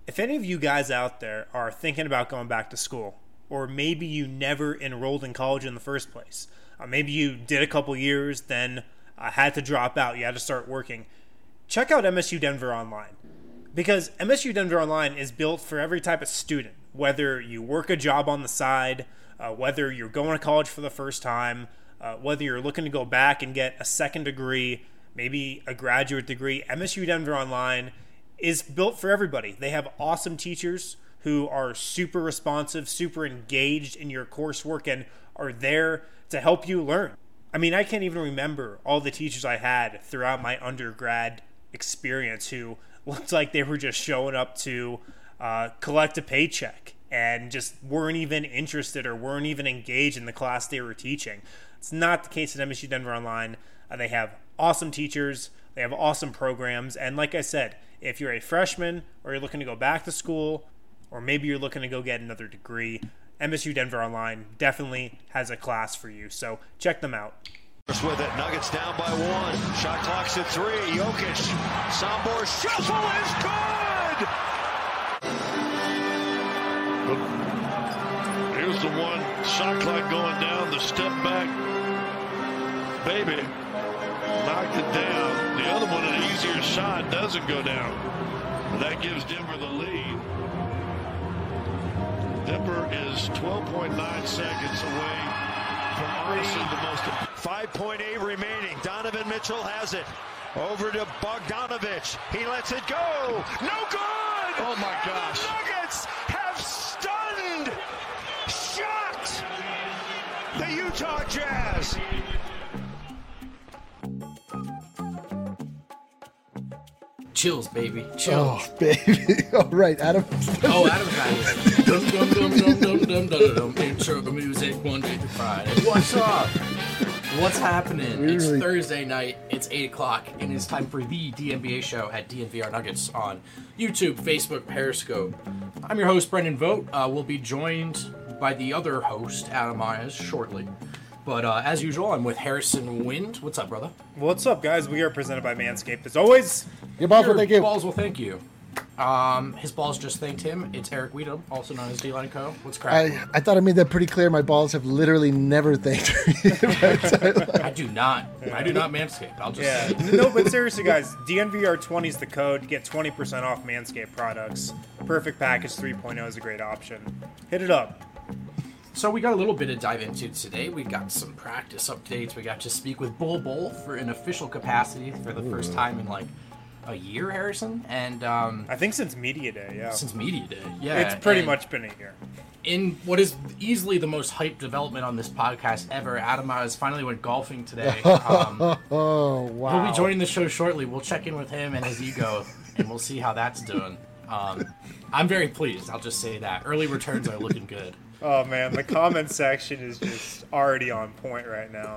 If any of you guys out there are thinking about going back to school, or maybe you never enrolled in college in the first place, maybe you did a couple years, then had to drop out, you had to start working, check out MSU Denver Online. Because MSU Denver Online is built for every type of student, whether you work a job on the side, whether you're going to college for the first time, whether you're looking to go back and get a second degree, maybe a graduate degree. MSU Denver Online is built for everybody. They have awesome teachers who are super responsive, super engaged in your coursework, and are there to help you learn. I mean, I can't even remember all the teachers I had throughout my undergrad experience who looked like they were just showing up to collect a paycheck and just weren't even interested or weren't even engaged in the class they were teaching. It's not the case at MSU Denver Online. They have awesome teachers, they have awesome programs, and like I said, if you're a freshman or you're looking to go back to school, or maybe you're looking to go get another degree, MSU Denver Online definitely has a class for you, so check them out. With it, Nuggets down by 1. Shot clock's at 3. Jokic, Sombor shuffle is good. Here's the one. Shot clock going down. The step back, baby, knocked it down. The other one, an easier shot, doesn't go down. That gives Denver the lead. Denver is 12.9 seconds away from honestly the most. 5.8 remaining. Donovan Mitchell has it. Over to Bogdanovich. He lets it go. No good! Oh my gosh. The Nuggets have stunned, shocked the Utah Jazz. Chills, baby. Chills. Oh, baby. All right, Adam. Oh, Adam's got it. Dum dum dum dum dum dum dum dum. Intro the music Monday through Friday. What's up? What's happening? It's Thursday night. It's 8 o'clock, and it's time for the DNVR show at DNVR Nuggets on YouTube, Facebook, Periscope. I'm your host, Brendan Vogt. We'll be joined by the other host, Adam Myers, shortly. But as usual, I'm with Harrison Wind. What's up, brother? What's up, guys? We are presented by Manscaped. As always, Your balls will thank you. Balls will thank you. His balls just thanked him. It's Eric Weedham, also known as D-Line Co. What's cracking? I thought I made that pretty clear. My balls have literally never thanked me. I do not Manscaped. I'll just No, but seriously, guys, DNVR20 is the code. Get 20% off Manscaped products. Perfect Package 3.0 is a great option. Hit it up. So we got a little bit to dive into today. We got some practice updates. We got to speak with Bol Bol for an official capacity for the first time in like a year, Harrison. And I think since Media Day, yeah. Since Media Day, yeah. It's pretty much been a year. In what is easily the most hyped development on this podcast ever, Adam Myers finally went golfing today. Oh, wow. He'll be joining the show shortly. We'll check in with him and his ego, and we'll see how that's doing. I'm very pleased. I'll just say that. Early returns are looking good. Oh, man, the comment section is just already on point right now.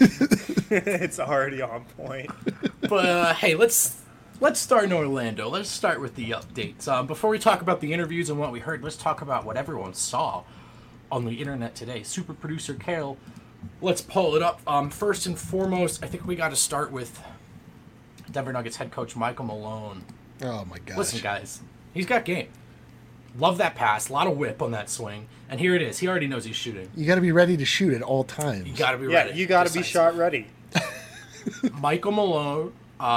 It's already on point. But, hey, let's start in Orlando. Let's start with the updates. Before we talk about the interviews and what we heard, let's talk about what everyone saw on the internet today. Super producer Kale, let's pull it up. First and foremost, I think we got to start with Denver Nuggets head coach Michael Malone. Oh, my gosh. Listen, guys, he's got game. Love that pass. A lot of whip on that swing. And here it is. He already knows he's shooting. You got to be ready to shoot at all times. You got to be ready. Yeah, you got to be shot ready. Michael Malone,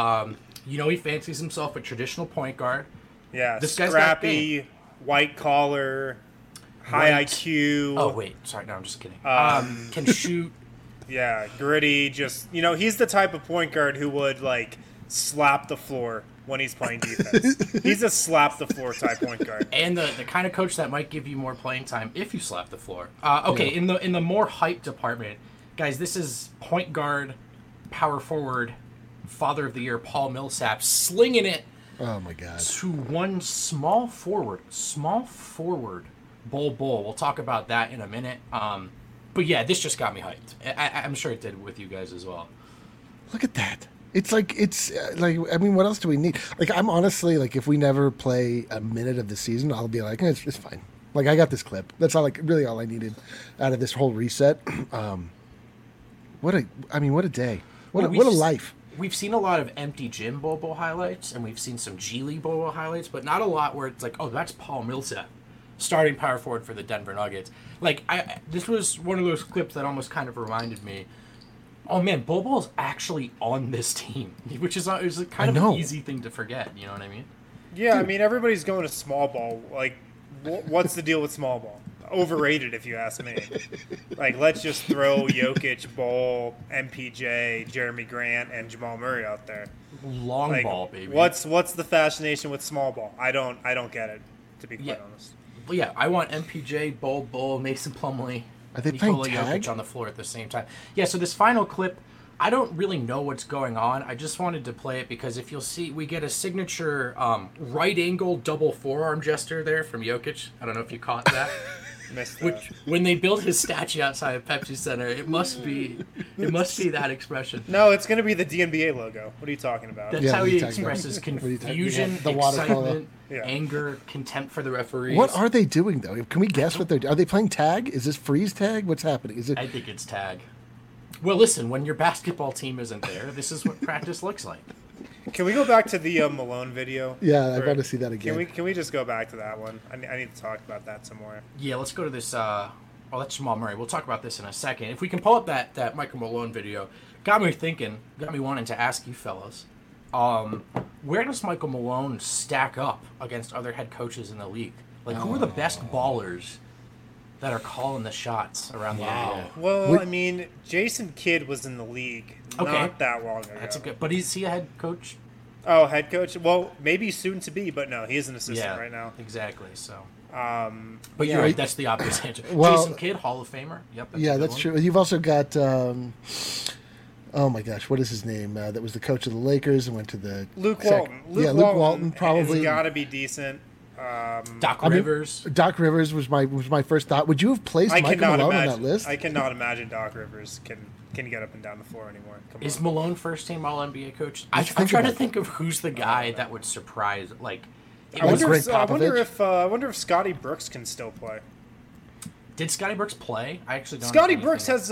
he fancies himself a traditional point guard. Yeah, this guy's scrappy, white collar, high IQ. Oh, wait. Sorry, no, I'm just kidding. Can shoot. Yeah, gritty. Just, he's the type of point guard who would, slap the floor when he's playing defense. He's a slap the floor type point guard. And the kind of coach that might give you more playing time if you slap the floor. Okay, yeah. in the more hype department, guys, this is point guard, power forward, father of the year, Paul Millsap, slinging it. Oh my God. To one small forward, Bol Bol. We'll talk about that in a minute. But yeah, this just got me hyped. I'm sure it did with you guys as well. Look at that. It's like, what else do we need? I'm honestly, if we never play a minute of the season, I'll be like, it's fine. I got this clip. That's all, really all I needed out of this whole reset. What a day. What a life. we've seen a lot of empty gym Bol highlights, and we've seen some G League Bol highlights, but not a lot where it's like, oh, that's Paul Millsap, starting power forward for the Denver Nuggets. Like, this was one of those clips that almost kind of reminded me, oh man, Bol's actually on this team, which is kind of an easy thing to forget. You know what I mean? Yeah, I mean, everybody's going to small ball. Like, what's the deal with small ball? Overrated, if you ask me. Like, let's just throw Jokic, Bol, MPJ, Jeremy Grant, and Jamal Murray out there. Long ball, baby. What's the fascination with small ball? I don't get it, to be quite honest. Well, yeah, I want MPJ, Bol, Mason Plumlee, Are they Nikola playing tag? Jokic on the floor at the same time. Yeah, so this final clip, I don't really know what's going on. I just wanted to play it because if you'll see, we get a signature right angle double forearm gesture there from Jokic. I don't know if you caught that. Missed that. Which, when they built his statue outside of Pepsi Center, it must be that expression. No, it's going to be the DNBA logo. What are you talking about? That's Yeah, how what are he you talking about? expresses What are you talking- confusion, yeah, the watercolor. excitement, Yeah. anger, contempt for the referees. What are they doing though? Can we guess what they're doing? Are they playing tag? Is this freeze tag? What's happening? Is it? I think it's tag. Well, listen, when your basketball team isn't there, this is what practice looks like. Can we go back to the Malone video? Yeah, I want to see that again. Can we just go back to that one? I need to talk about that some more. Yeah, let's go to this. That's Jamal Murray. We'll talk about this in a second. If we can pull up that Michael Malone video, got me wanting to ask you fellas, where does Michael Malone stack up against other head coaches in the league? Like, who are the best ballers that are calling the shots around the NBA? Well, I mean, Jason Kidd was in the league not that long ago. That's a good. But is he a head coach? Oh, head coach? Well, maybe soon to be, but no, he is an assistant right now. Exactly. So. But You're right. That's the obvious answer. Well, Jason Kidd, Hall of Famer. Yep. Yeah, that's true. You've also got. Oh my gosh, what is his name? That was the coach of the Lakers and went to the Luke Walton. Luke Walton probably has got to be decent. Doc Rivers. Doc Rivers was my first thought. Would you have placed Michael Malone on that list? I cannot imagine Doc Rivers can get up and down the floor anymore. Is Malone first team All NBA coach? I'm trying to think of who's the guy that would surprise. Like, I wonder if Scotty Brooks can still play. Did Scotty Brooks play? I actually don't. Scotty Brooks has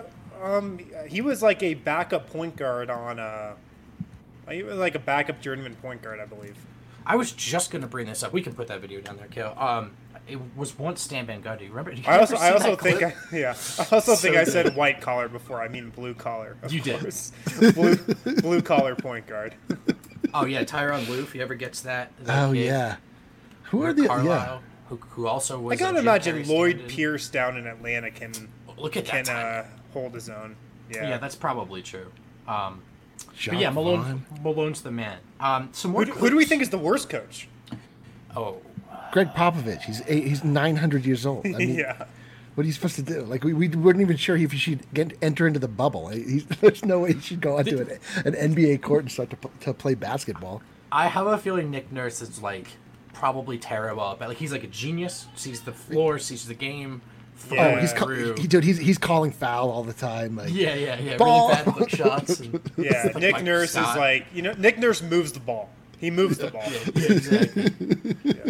he was like a backup point guard on he was like a backup journeyman point guard, I believe. I was just gonna bring this up. We can put that video down there, Kale. It was once Stan Van Gundy. Remember? I also think I said white collar before. I mean blue collar. You did. Blue collar point guard. Oh yeah, Tyronn Lue. If he ever gets that. Oh kid. Yeah. Who are the Carlisle, who also was? I gotta imagine Lloyd Pierce down in Atlanta can hold his own. Yeah, that's probably true. But yeah, Malone's the man. Some more. Who do we think is the worst coach? Oh, Greg Popovich. He's 900 years old. I mean, yeah. What are you supposed to do? Like we weren't even sure if he should enter into the bubble. There's no way he should go onto an NBA court and start to play basketball. I have a feeling Nick Nurse is like probably terrible, but like he's like a genius. Sees the floor, sees the game. Yeah. He's calling foul all the time. Like, yeah. Ball. Really bad hook shots. And yeah, Nick Nurse is like Nick Nurse moves the ball. He moves the ball. Exactly.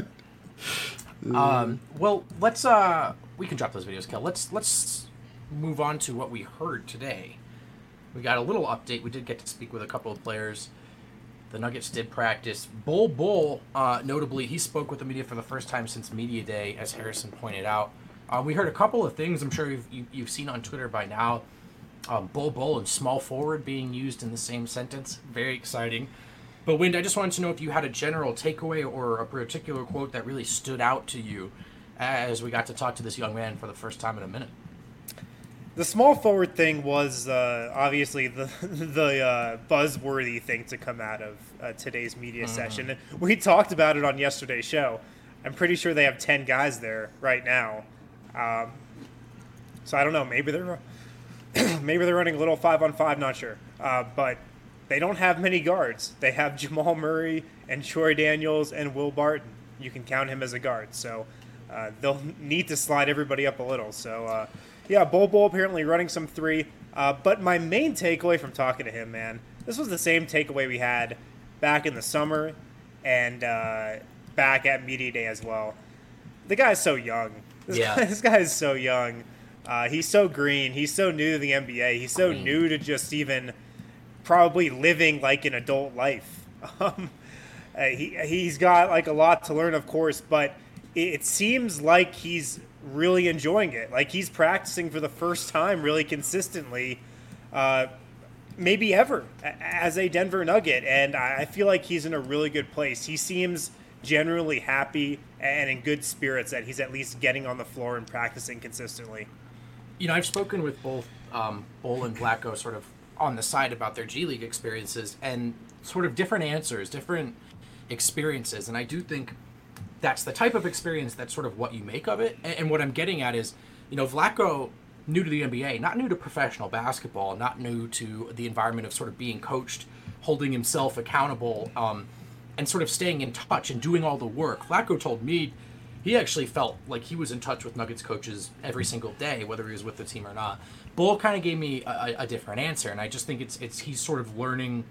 Well, let's we can drop those videos, Kel. Let's move on to what we heard today. We got a little update. We did get to speak with a couple of players. The Nuggets did practice. Bol, notably, he spoke with the media for the first time since Media Day, as Harrison pointed out. We heard a couple of things I'm sure you've seen on Twitter by now. Bol and small forward being used in the same sentence. Very exciting. But, Wind, I just wanted to know if you had a general takeaway or a particular quote that really stood out to you as we got to talk to this young man for the first time in a minute. The small forward thing was obviously the buzzworthy thing to come out of today's media session. And we talked about it on yesterday's show. I'm pretty sure they have 10 guys there right now. So I don't know. Maybe they're running a little 5-on-5. Not sure. But they don't have many guards. They have Jamal Murray and Troy Daniels and Will Barton. You can count him as a guard. So they'll need to slide everybody up a little. So. Yeah, Bol apparently running some three. But my main takeaway from talking to him, man, this was the same takeaway we had back in the summer and back at Media Day as well. The guy's so young. This guy is so young. He's so green. He's so new to the NBA. He's so new to just even probably living like an adult life. He's got like a lot to learn, of course, but it seems like he's really enjoying it. Like he's practicing for the first time really consistently, maybe ever, as a Denver Nugget. And I feel like he's in a really good place. He seems generally happy and in good spirits that he's at least getting on the floor and practicing consistently. You know, I've spoken with both Bol and Vlatko sort of on the side about their G League experiences and sort of different answers, different experiences. And I do think that's the type of experience that's sort of what you make of it. And what I'm getting at is, you know, Vlatko, new to the NBA, not new to professional basketball, not new to the environment of sort of being coached, holding himself accountable, and sort of staying in touch and doing all the work. Vlatko told me he actually felt like he was in touch with Nuggets coaches every single day, whether he was with the team or not. Bol kind of gave me a different answer, and I just think it's he's sort of learning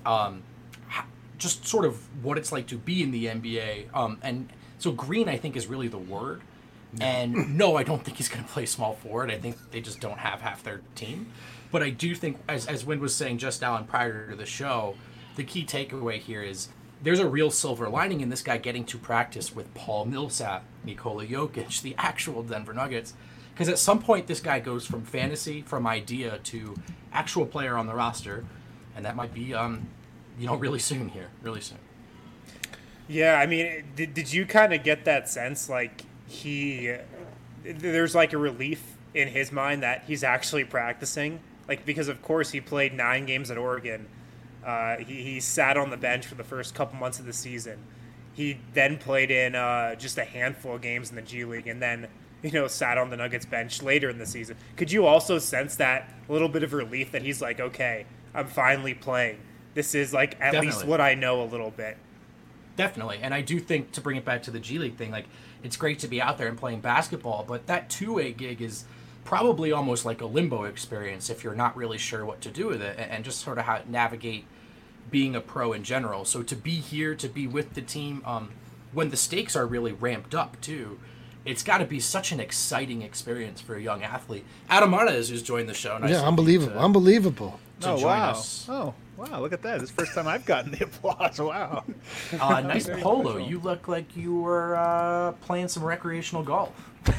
just sort of what it's like to be in the NBA. And so green, I think, is really the word. And no, I don't think he's going to play small forward. I think they just don't have half their team. But I do think, as Wynn was saying just now and prior to the show, the key takeaway here is there's a real silver lining in this guy getting to practice with Paul Millsap, Nikola Jokic, the actual Denver Nuggets. Because at some point, this guy goes from fantasy, from idea, to actual player on the roster. And that might be, really soon here, really soon. Yeah, I mean, did you kind of get that sense, like, there's like a relief in his mind that he's actually practicing? Like, because of course he played 9 games at Oregon. He sat on the bench for the first couple months of the season. He then played in just a handful of games in the G League, and then, sat on the Nuggets bench later in the season. Could you also sense that little bit of relief that he's like, okay, I'm finally playing. This is like at Definitely. least what I know a little bit. Definitely. And I do think, to bring it back to the G League thing, like, it's great to be out there and playing basketball, but that two-way gig is probably almost like a limbo experience if you're not really sure what to do with it and just sort of how to navigate being a pro in general. So to be here, to be with the team, when the stakes are really ramped up too, it's got to be such an exciting experience for a young athlete. Adam Martinez has joined the show. Yeah, unbelievable. To join us. Oh, wow, look at that. This is the first time I've gotten the applause. Wow. Nice polo. You look like you were playing some recreational golf.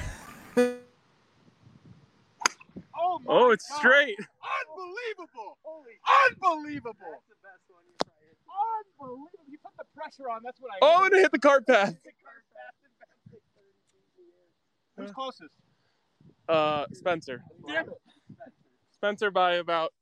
Oh, it's God. Straight. Unbelievable. Unbelievable. That's the best one you've tried. Unbelievable. You put the pressure on. That's what I Oh, and it hit the cart path. Who's closest? Spencer. Damn it. Spencer by about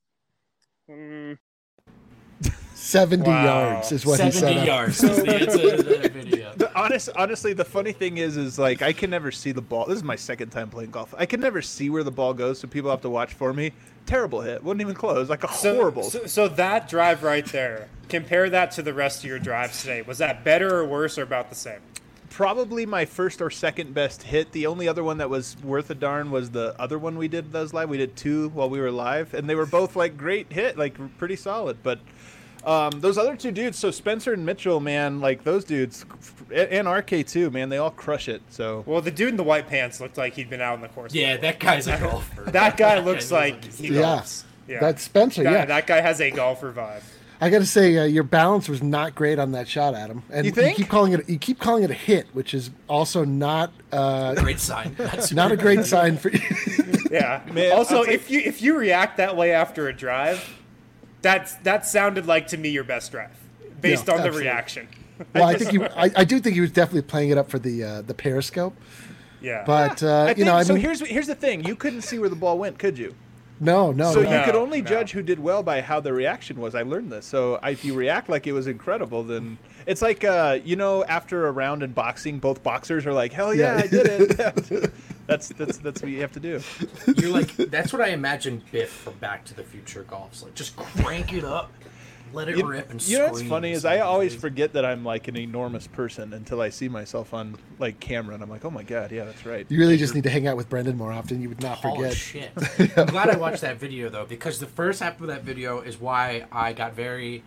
70 yards is what he said. 70 yards is the answer to the video. Honestly, the funny thing is like I can never see the ball. This is my second time playing golf. I can never see where the ball goes, so people have to watch for me. Terrible hit. Wouldn't even close. Like horrible. So that drive right there, compare that to the rest of your drives today. Was that better or worse or about the same? Probably my first or second best hit. The only other one that was worth a darn was the other one we did that was live. We did 2 while we were live, and they were both like great hit, like pretty solid. But those other 2 dudes, so Spencer and Mitchell, man, like those dudes, and RK too, man, they all crush it. So well, the dude in the white pants looked like he'd been out on the course. Yeah, before. that guy's a golfer. That guy looks like he golfs. Yeah, that's Spencer. That guy has a golfer vibe. I got to say, your balance was not great on that shot, Adam. And you think? You keep calling it a hit, which is also not great sign. That's not a great sign for you. Yeah. Man, also, if you react that way after a drive, that sounded like to me your best drive, based on absolutely. the reaction. Well, I do think he was definitely playing it up for the Periscope. Yeah. But here's the thing: you couldn't see where the ball went, could you? No. So you could only judge who did well by how the reaction was. I learned this. So if you react like it was incredible, then it's like after a round in boxing, both boxers are like, "Hell yeah, I did it." That's what you have to do. You're like, that's what I imagine Biff from Back to the Future golfs like. Just crank it up, let it rip, and scream. You know what's funny is I always forget that I'm like an enormous person until I see myself on like camera, and I'm like, oh my god, yeah, that's right. You really just need to hang out with Brendan more often. You would not forget. Shit. I'm glad I watched that video though, because the first half of that video is why I got very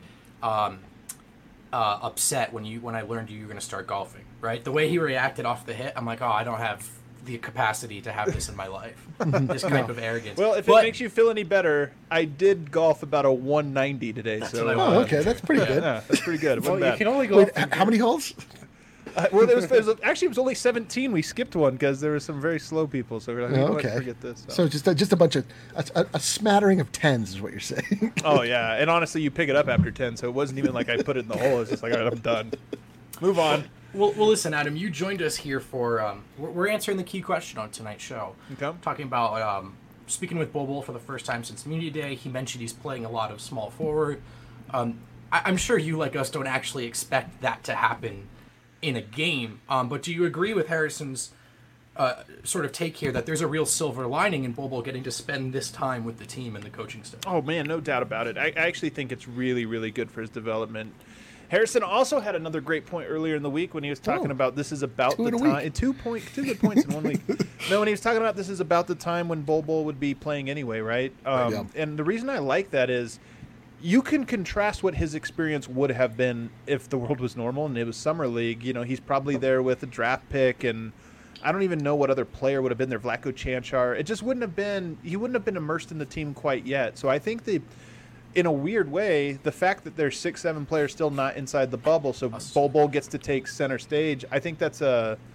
upset when I learned you were going to start golfing. Right, the way he reacted off the hit, I'm like, oh, I don't have the capacity to have this in my life. This type of arrogance. Well, if it makes you feel any better, I did golf about a 190 today. So okay, that's pretty good. Yeah, that's pretty good. It wasn't Well, you bad. can only go. Wait, how many holes? Well, it was only 17. We skipped one because there were some very slow people. So we're like, you know what, forget this. So just a bunch of a smattering of tens is what you're saying. Oh yeah, and honestly, you pick it up after 10, so it wasn't even like I put it in the hole. It's just like, all right, I'm done. Move on. Well, listen, Adam, you joined us here for we're answering the key question on tonight's show. Okay. Talking about speaking with Bol Bol for the first time since Media Day. He mentioned he's playing a lot of small forward. I'm sure you, like us, don't actually expect that to happen in a game. But do you agree with Harrison's sort of take here that there's a real silver lining in Bol Bol getting to spend this time with the team and the coaching staff? Oh man, no doubt about it. I actually think it's really, really good for his development. Harrison also had another great point earlier in the week when he was talking about this is about the time. Two good points in 1 week. No, when he was talking about this is about the time when Bol Bol would be playing anyway, right? And the reason I like that is you can contrast what his experience would have been if the world was normal and it was summer league. You know, he's probably there with a draft pick, and I don't even know what other player would have been there. Vlatko Chanchar. It just wouldn't have been. He wouldn't have been immersed in the team quite yet. So I think in a weird way, the fact that there's 6-7 players still not inside the bubble, so Bol Bol gets to take center stage. I think that's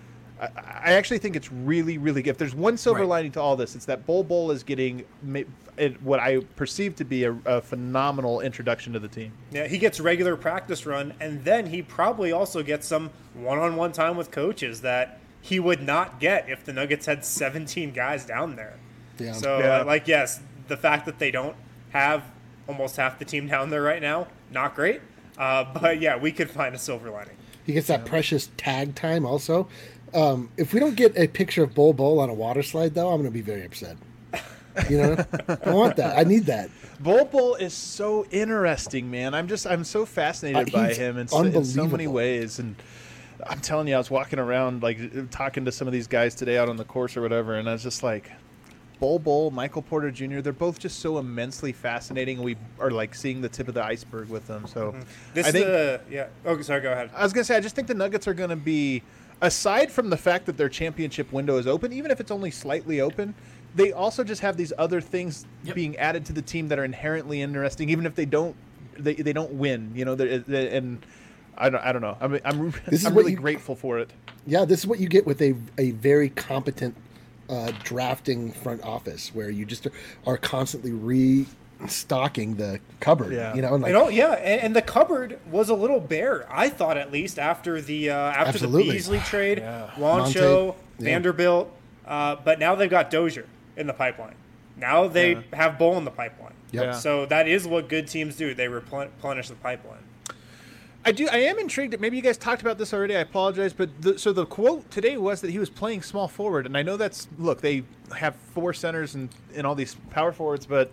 I actually think it's really, really good. If there's one silver lining to all this, it's that Bol Bol is getting what I perceive to be a phenomenal introduction to the team. Yeah, he gets regular practice run, and then he probably also gets some one-on-one time with coaches that he would not get if the Nuggets had 17 guys down there. Yeah. So, yes, the fact that they don't have almost half the team down there right now, not great. But, yeah, we could find a silver lining. He gets that precious tag time also. If we don't get a picture of Bol Bol on a water slide, though, I'm going to be very upset. You know, I want that. I need that. Bol Bol is so interesting, man. I'm so fascinated by him in so many ways. And I'm telling you, I was walking around, like, talking to some of these guys today out on the course or whatever, and I was just like, Bol Bol, Michael Porter Jr., they're both just so immensely fascinating. We are, like, seeing the tip of the iceberg with them. So I think Oh, sorry, go ahead. I was going to say, I just think the Nuggets are going to be, aside from the fact that their championship window is open, even if it's only slightly open, they also just have these other things being added to the team that are inherently interesting, even if they don't win. You know, and I don't know. I'm really grateful for it. Yeah, this is what you get with a very competent drafting front office, where you just are constantly restocking the cupboard. Yeah. You know, and and the cupboard was a little bare. I thought, at least after the Beasley trade, Juancho, Vanderbilt, but now they've got Dozier in the pipeline. Now they have Bol in the pipeline. Yep. Yeah. So that is what good teams do. They replenish the pipeline. I am intrigued. Maybe you guys talked about this already. I apologize, but the quote today was that he was playing small forward, and I know they have 4 centers and all these power forwards, but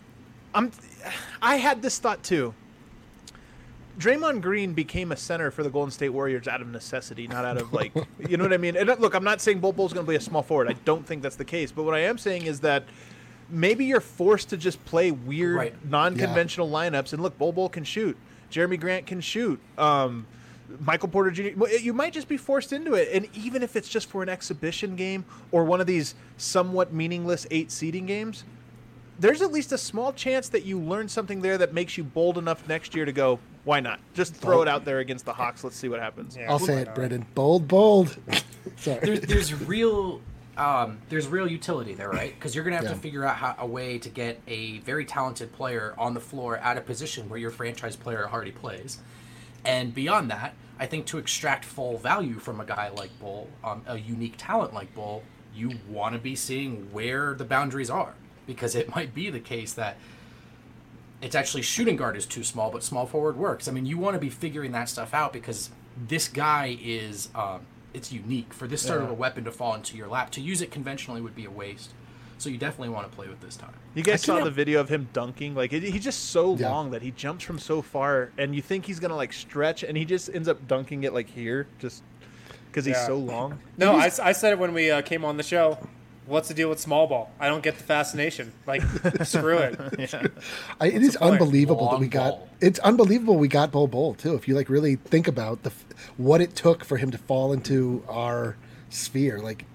I had this thought too. Draymond Green became a center for the Golden State Warriors out of necessity, not out of, like, you know what I mean? And look, I'm not saying Bol Bol's going to be a small forward. I don't think that's the case. But what I am saying is that maybe you're forced to just play weird, non-conventional lineups. And look, Bol Bol can shoot. Jeremy Grant can shoot. Michael Porter Jr. You might just be forced into it. And even if it's just for an exhibition game or one of these somewhat meaningless 8 seeding games, there's at least a small chance that you learn something there that makes you bold enough next year to go, why not? Just throw it out there against the Hawks. Let's see what happens. Yeah, I'll say it, Brendan. Bold. Sorry. There's real utility there, right? Because you're going to have to figure out a way to get a very talented player on the floor at a position where your franchise player already plays. And beyond that, I think to extract full value from a guy like Bol, a unique talent like Bol, you want to be seeing where the boundaries are. Because it might be the case that it's actually shooting guard is too small, but small forward works. I mean, you want to be figuring that stuff out because this guy is it's unique. For this sort of a weapon to fall into your lap, to use it conventionally would be a waste. So you definitely want to play with this time. You guys saw the video of him dunking? Like, he's just so long that he jumps from so far, and you think he's going to, like, stretch, and he just ends up dunking it, like, here, just because he's so long. No, I said it when we came on the show. What's the deal with small ball? I don't get the fascination. Like, screw it. It is unbelievable that we got. It's unbelievable we got Bol Bol too. If you like really think about what it took for him to fall into our sphere, like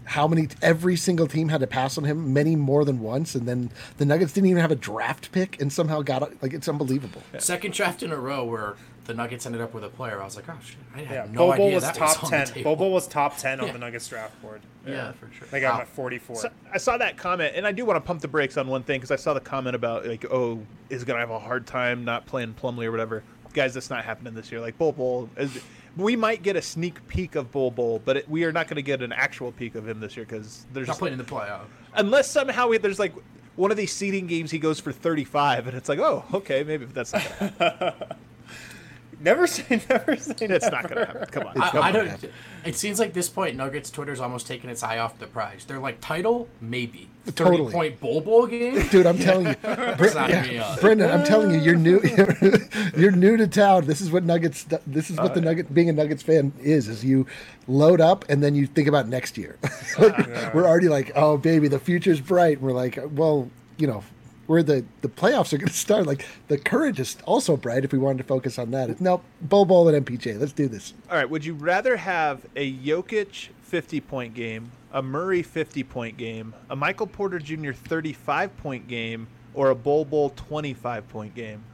every single team had to pass on him many more than once, and then the Nuggets didn't even have a draft pick and somehow got it. Like, it's unbelievable. Second draft in a row where the Nuggets ended up with a player. I was like, oh shit, I had no Bol Bol idea was that top was 10. on the table. Bol Bol was top 10 on the Nuggets draft board. Yeah, for sure. They got him at 44. So, I saw that comment, and I do want to pump the brakes on one thing because I saw the comment about like, oh, is going to have a hard time not playing Plumlee or whatever. Guys, that's not happening this year. Like Bol Bol, we might get a sneak peek of Bol Bol, but we are not going to get an actual peek of him this year because there's Not playing in the playoff. unless somehow there's like one of these seeding games he goes for 35, and it's like, oh, okay, maybe that's not going to happen. Never say It's not going to happen. Come on. I don't. It seems like this point, Nuggets Twitter's almost taking its eye off the prize. They're like, title, maybe. Totally. 30-point Bol game? Dude, I'm telling you, Sign me up. Brendan, I'm telling you, you're new. You're new to town. This is what Nuggets. This is what the Nugget. Being a Nuggets fan is you load up and then you think about next year. We're already like, oh baby, the future's bright. And we're like, well, where the playoffs are going to start. Like, the courage is also bright if we wanted to focus on that. Nope, Bol Bol and MPJ. Let's do this. All right, would you rather have a Jokic 50-point game, a Murray 50-point game, a Michael Porter Jr. 35-point game, or a Bol Bol 25-point game?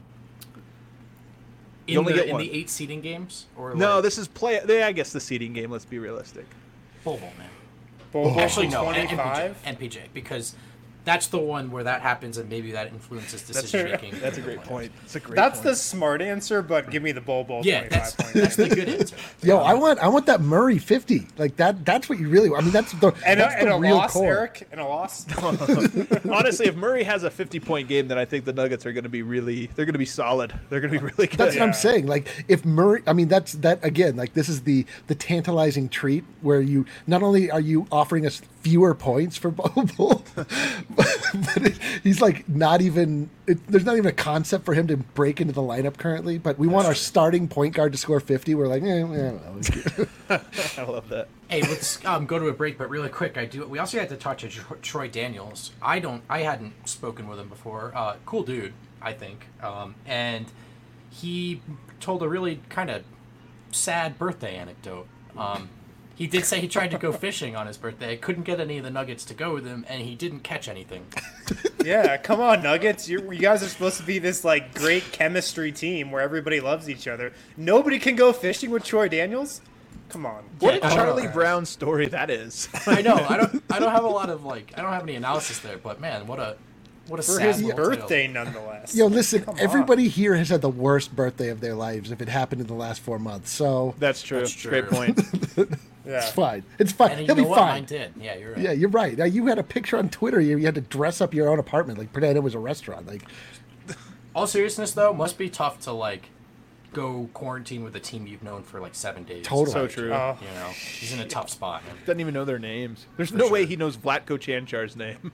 You only get in one. the 8 seeding games? Or No, like, this is I guess the seeding game. Let's be realistic. Bol Bol, man. Bol Bol Actually, no, 25. NPJ, because that's the one where that happens and maybe that influences decision making. That's a great point. That's the smart answer, but give me the Bol Bol 25 point. That's the good answer. Yo, I want that Murray 50. Like that's what you really want. I mean, that's the real loss, core. Eric, and a loss. Honestly, if Murray has a 50-point game, then I think the Nuggets are going to be they're going to be solid. They're going to be really good. That's what I'm saying. Like, if Murray, I mean, that again. Like, this is the tantalizing treat where you not only are you offering us fewer points for Bol Bol, but he's like not even. There's not even a concept for him to break into the lineup currently. But we want our starting point guard to score 50. We're like, I don't know. I love that. Hey, let's go to a break, but really quick, we also had to touch on Troy Daniels. I hadn't spoken with him before. Cool dude, I think. And he told a really kind of sad birthday anecdote. He did say he tried to go fishing on his birthday, couldn't get any of the Nuggets to go with him, and he didn't catch anything. Yeah, come on, Nuggets. You guys are supposed to be this like great chemistry team where everybody loves each other. Nobody can go fishing with Troy Daniels. Come on. What a Charlie Brown story that is. I know. I don't have a lot of I don't have any analysis there, but man, what a For sad his little birthday, tale. nonetheless. Yo, listen, Come everybody here has had the worst birthday of their lives if it happened in the last 4 months. So That's true. That's true. Great point. Yeah. it's fine. It's fine. And you He'll know be what? fine. Mine did. Yeah, you're right. Yeah, you're right. You had a picture on Twitter. You had to dress up your own apartment, like pretend it was a restaurant. Like, All seriousness though, must be tough to like go quarantine with a team you've known for like 7 days. Totally. So true. You know, he's in a tough spot. Doesn't even know their names. There's no way he knows Vlatko Chanchar's name.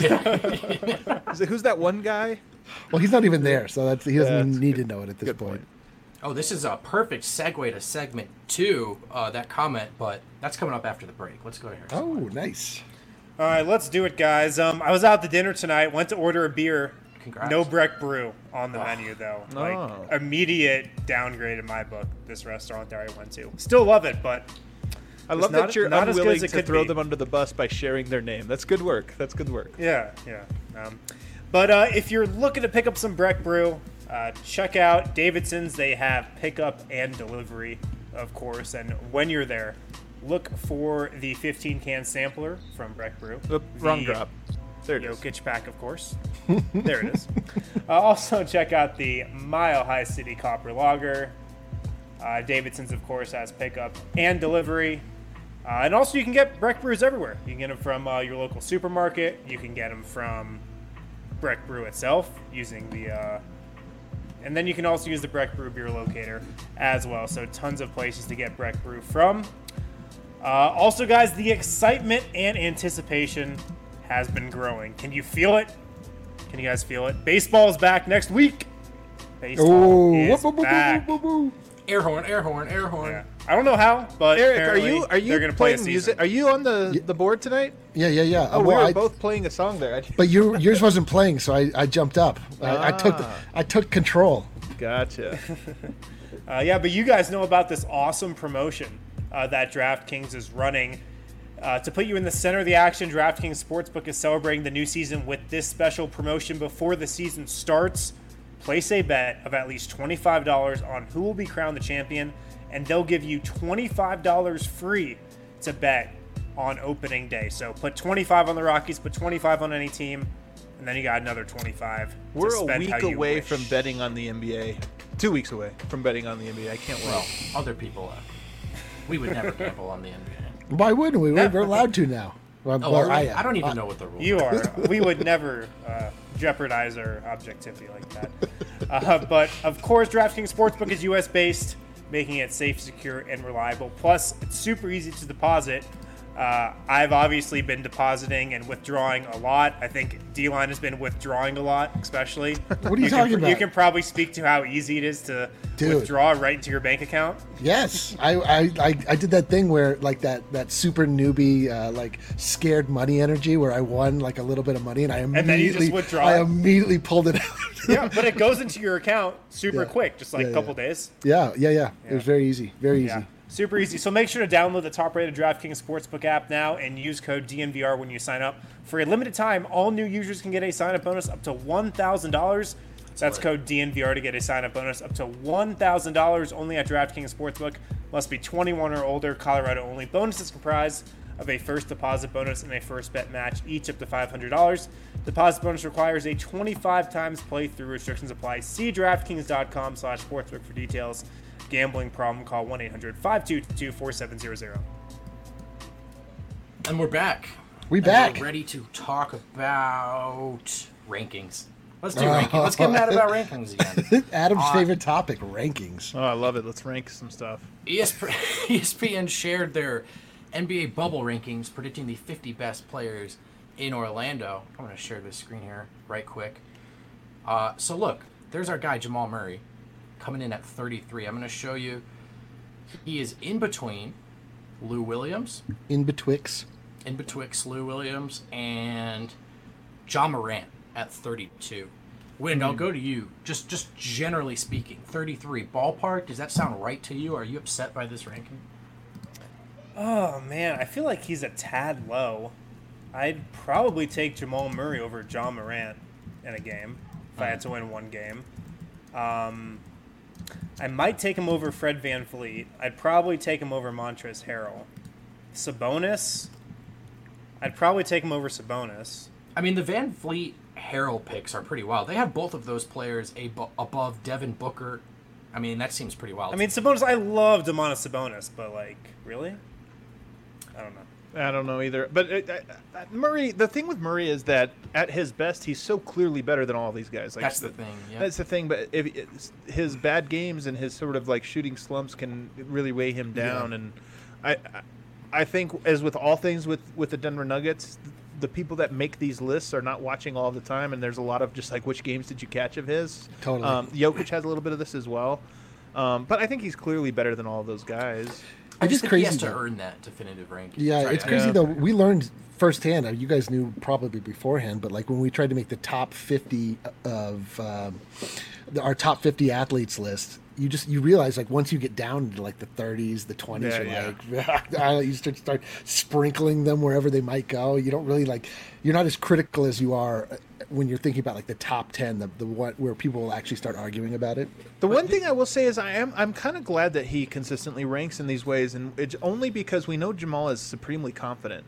He's like, who's that one guy? well, he's not even there, so he doesn't that's need to know it at this good point. point. Oh, this is a perfect segue to segment 2, that comment, but that's coming up after the break. Let's go to Harrison. Oh, nice. All right, let's do it, guys. I was out to dinner tonight. Went to order a beer. Congrats. No Breck Brew on the menu, though. Like, Oh. immediate downgrade in my book, this restaurant that I went to. Still love it, but I love not- that you're not as good unwilling as it to could throw be. them under the bus by sharing their name. That's good work. That's good work. yeah. But if you're looking to pick up some Breck Brew, check out Davidson's. They have pickup and delivery, of course. And when you're there, look for the 15-can sampler from Breck Brew. Oop, wrong The drop. There it is. Jokic pack, of course. There it is. Also, check out the Mile High City Copper Lager. Davidson's, of course, has pickup and delivery. And also, you can get Breck Brews everywhere. You can get them from your local supermarket. You can get them from Breck Brew itself using the... and then you can also use the Breck Brew beer locator as well. So tons of places to get Breck Brew from. Also, guys, the excitement and anticipation has been growing. Can you feel it? Can you guys feel it? Baseball is back next week. Baseball is back. Air horn, air horn, air horn. Yeah. I don't know how, but Eric, apparently are you they're going to play a playing season. music? Are you on the board tonight? Yeah. Oh, we Well, were both playing a song there. But yours wasn't playing, so I jumped up. I took control. Gotcha. Yeah, but you guys know about this awesome promotion that DraftKings is running. To put you in the center of the action, DraftKings Sportsbook is celebrating the new season with this special promotion before the season starts. Place a bet of at least $25 on who will be crowned the champion, and they'll give you $25 free to bet on opening day. So put 25 on the Rockies, put 25 on any team, and then you got another 25. We're to a spend week how you away wish. from betting on the NBA. 2 weeks away from betting on the NBA. I can't Well, wait. other people we would never gamble on the NBA. Why wouldn't we? We're allowed to now. Well, Oh, well, are we? am. I don't even know what the rules You are. are. We would never jeopardize our objectivity like that. But of course, DraftKings Sportsbook is U.S. based, making it safe, secure, and reliable. Plus, it's super easy to deposit. I've obviously been depositing and withdrawing a lot. I think D-Line has been withdrawing a lot, especially. What are you talking about? You can probably speak to how easy it is to withdraw right into your bank account. Yes, I did that thing where like that super newbie like scared money energy where I won like a little bit of money and I immediately then you just withdraw I it? immediately pulled it out. Yeah, but it goes into your account super Yeah. quick, just like Yeah, a couple yeah. days. Yeah. It was very easy, very easy. Yeah, super easy. So make sure to download the top-rated DraftKings Sportsbook app now and use code DNVR when you sign up. For a limited time, all new users can get a sign-up bonus up to $1,000. That's code DNVR to get a sign-up bonus up to $1,000 only at DraftKings Sportsbook. Must be 21 or older, Colorado only. Bonuses comprise of a first deposit bonus and a first bet match, each up to $500. Deposit bonus requires a 25 times playthrough. Restrictions apply. See DraftKings.com/sportsbook for details. Gambling problem, call 1-800-522-4700. And we're back. We And back. We're ready to talk about rankings. Let's do rankings. Let's get mad about rankings again. Adam's favorite topic, rankings. Oh, I love it. Let's rank some stuff. ESPN shared their NBA bubble rankings, predicting the 50 best players in Orlando. I'm going to share this screen here right quick. So look, there's our guy Jamal Murray coming in at 33. I'm going to show you. He is in between Lou Williams, In betwixt. Lou Williams, and John Morant at 32. Wind, I'll go to you. Just generally speaking, 33 ballpark. Does that sound right to you? Are you upset by this ranking? Oh, man, I feel like he's a tad low. I'd probably take Jamal Murray over John Morant in a game if I had to win one game. I might take him over Fred VanVleet. I'd probably take him over Montrezl Harrell. Sabonis, I'd probably take him over Sabonis. I mean, the Van Vliet Harrell picks are pretty wild. They have both of those players above Devin Booker. I mean, that seems pretty wild. I mean, Sabonis, I love Domantas Sabonis, but, like, really? I don't know. I don't know either. But Murray, the thing with Murray is that at his best, he's so clearly better than all these guys. Like, that's the thing. Yeah. That's the thing. But his bad games and his sort of like shooting slumps can really weigh him down. Yeah. And I think, as with all things with the Denver Nuggets, the people that make these lists are not watching all the time, and there's a lot of just like, which games did you catch of his? Totally. Jokic has a little bit of this as well. But I think he's clearly better than all of those guys. I just It's think he has crazy, to though. earn that definitive ranking. Yeah, Sorry, it's crazy Yeah. though. We learned firsthand. You guys knew probably beforehand, but like when we tried to make the top 50 of our top 50 athletes list, you realize like once you get down into like the 30s, the 20s, you start sprinkling them wherever they might go. You don't really like. You're not as critical as you are when you're thinking about like the top 10, the what where people will actually start arguing about it. The one thing I will say is I'm kind of glad that he consistently ranks in these ways, and it's only because we know Jamal is supremely confident.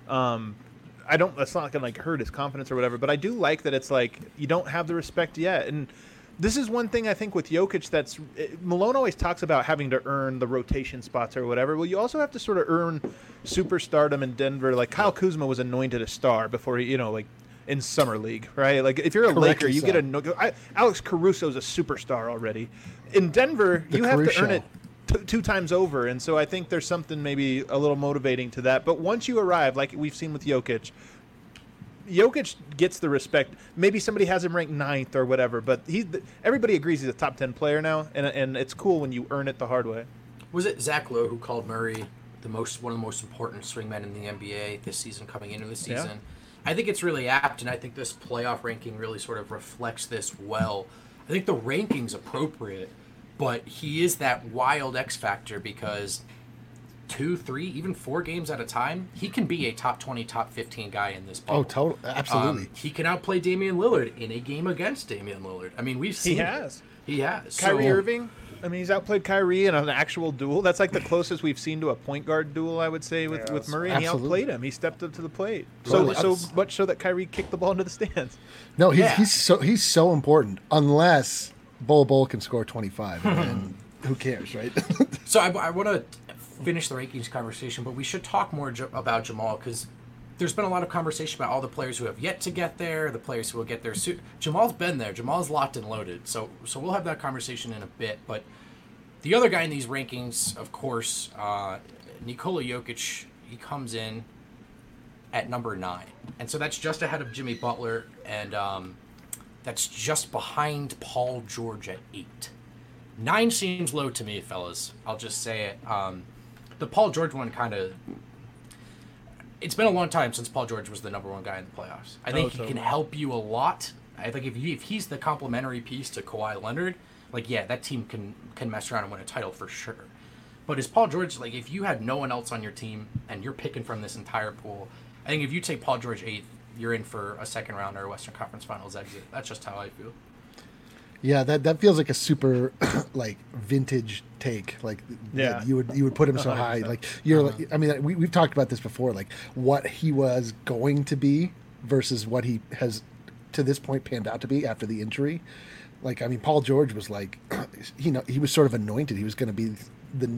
That's not gonna like hurt his confidence or whatever, but I do like that it's like you don't have the respect yet. And this is one thing I think with Jokic Malone always talks about having to earn the rotation spots or whatever. Well, you also have to sort of earn superstardom in Denver. Like Kyle Kuzma was anointed a star before he, like in summer league, right? Like if you're a Laker, Correctly you so. get Alex Caruso's a superstar already. In Denver, you have to earn it two times over, and so I think there's something maybe a little motivating to that. But once you arrive, like we've seen with Jokic gets the respect. Maybe somebody has him ranked 9th or whatever, but everybody agrees he's a top 10 player now, and it's cool when you earn it the hard way. Was it Zach Lowe who called Murray one of the most important swingmen in the NBA this season, coming into the season? Yeah. I think it's really apt, and I think this playoff ranking really sort of reflects this well. I think the ranking's appropriate, but he is that wild X factor because 2, 3, even 4 games at a time, he can be a top 20, top 15 guy in this bubble. Oh, totally, absolutely. He can outplay Damian Lillard in a game against Damian Lillard. I mean, we've seen He has. He has. Kyrie Irving. I mean, he's outplayed Kyrie in an actual duel. That's like the closest we've seen to a point guard duel, I would say, with Murray. And he absolutely. outplayed him. He stepped up to the plate. Totally. So much so that Kyrie kicked the ball into the stands. No, he's so important. Unless Bol can score 25, and who cares, right? So I want to finish the rankings conversation, but we should talk more about Jamal, because there's been a lot of conversation about all the players who have yet to get there, the players who will get there soon. Jamal's been there. Jamal's locked and loaded. So we'll have that conversation in a bit. But the other guy in these rankings, of course, Nikola Jokic, he comes in at number 9. And so that's just ahead of Jimmy Butler, and that's just behind Paul George at 8. 9 seems low to me, fellas. I'll just say it. The Paul George one kind of... It's been a long time since Paul George was the number 1 guy in the playoffs. I think he can help you a lot. I think if he's the complementary piece to Kawhi Leonard, like, yeah, that team can mess around and win a title for sure. But is Paul George, like, if you had no one else on your team and you're picking from this entire pool, I think if you take Paul George 8th, you're in for a second round or a Western Conference Finals exit. That's just how I feel. Yeah, that feels like a super like vintage take. Like, yeah, you would put him so 100%. High. Like you're, like, I mean, we've talked about this before. Like what he was going to be versus what he has to this point panned out to be after the injury. Like, I mean, Paul George was like, he was sort of anointed. He was going to be the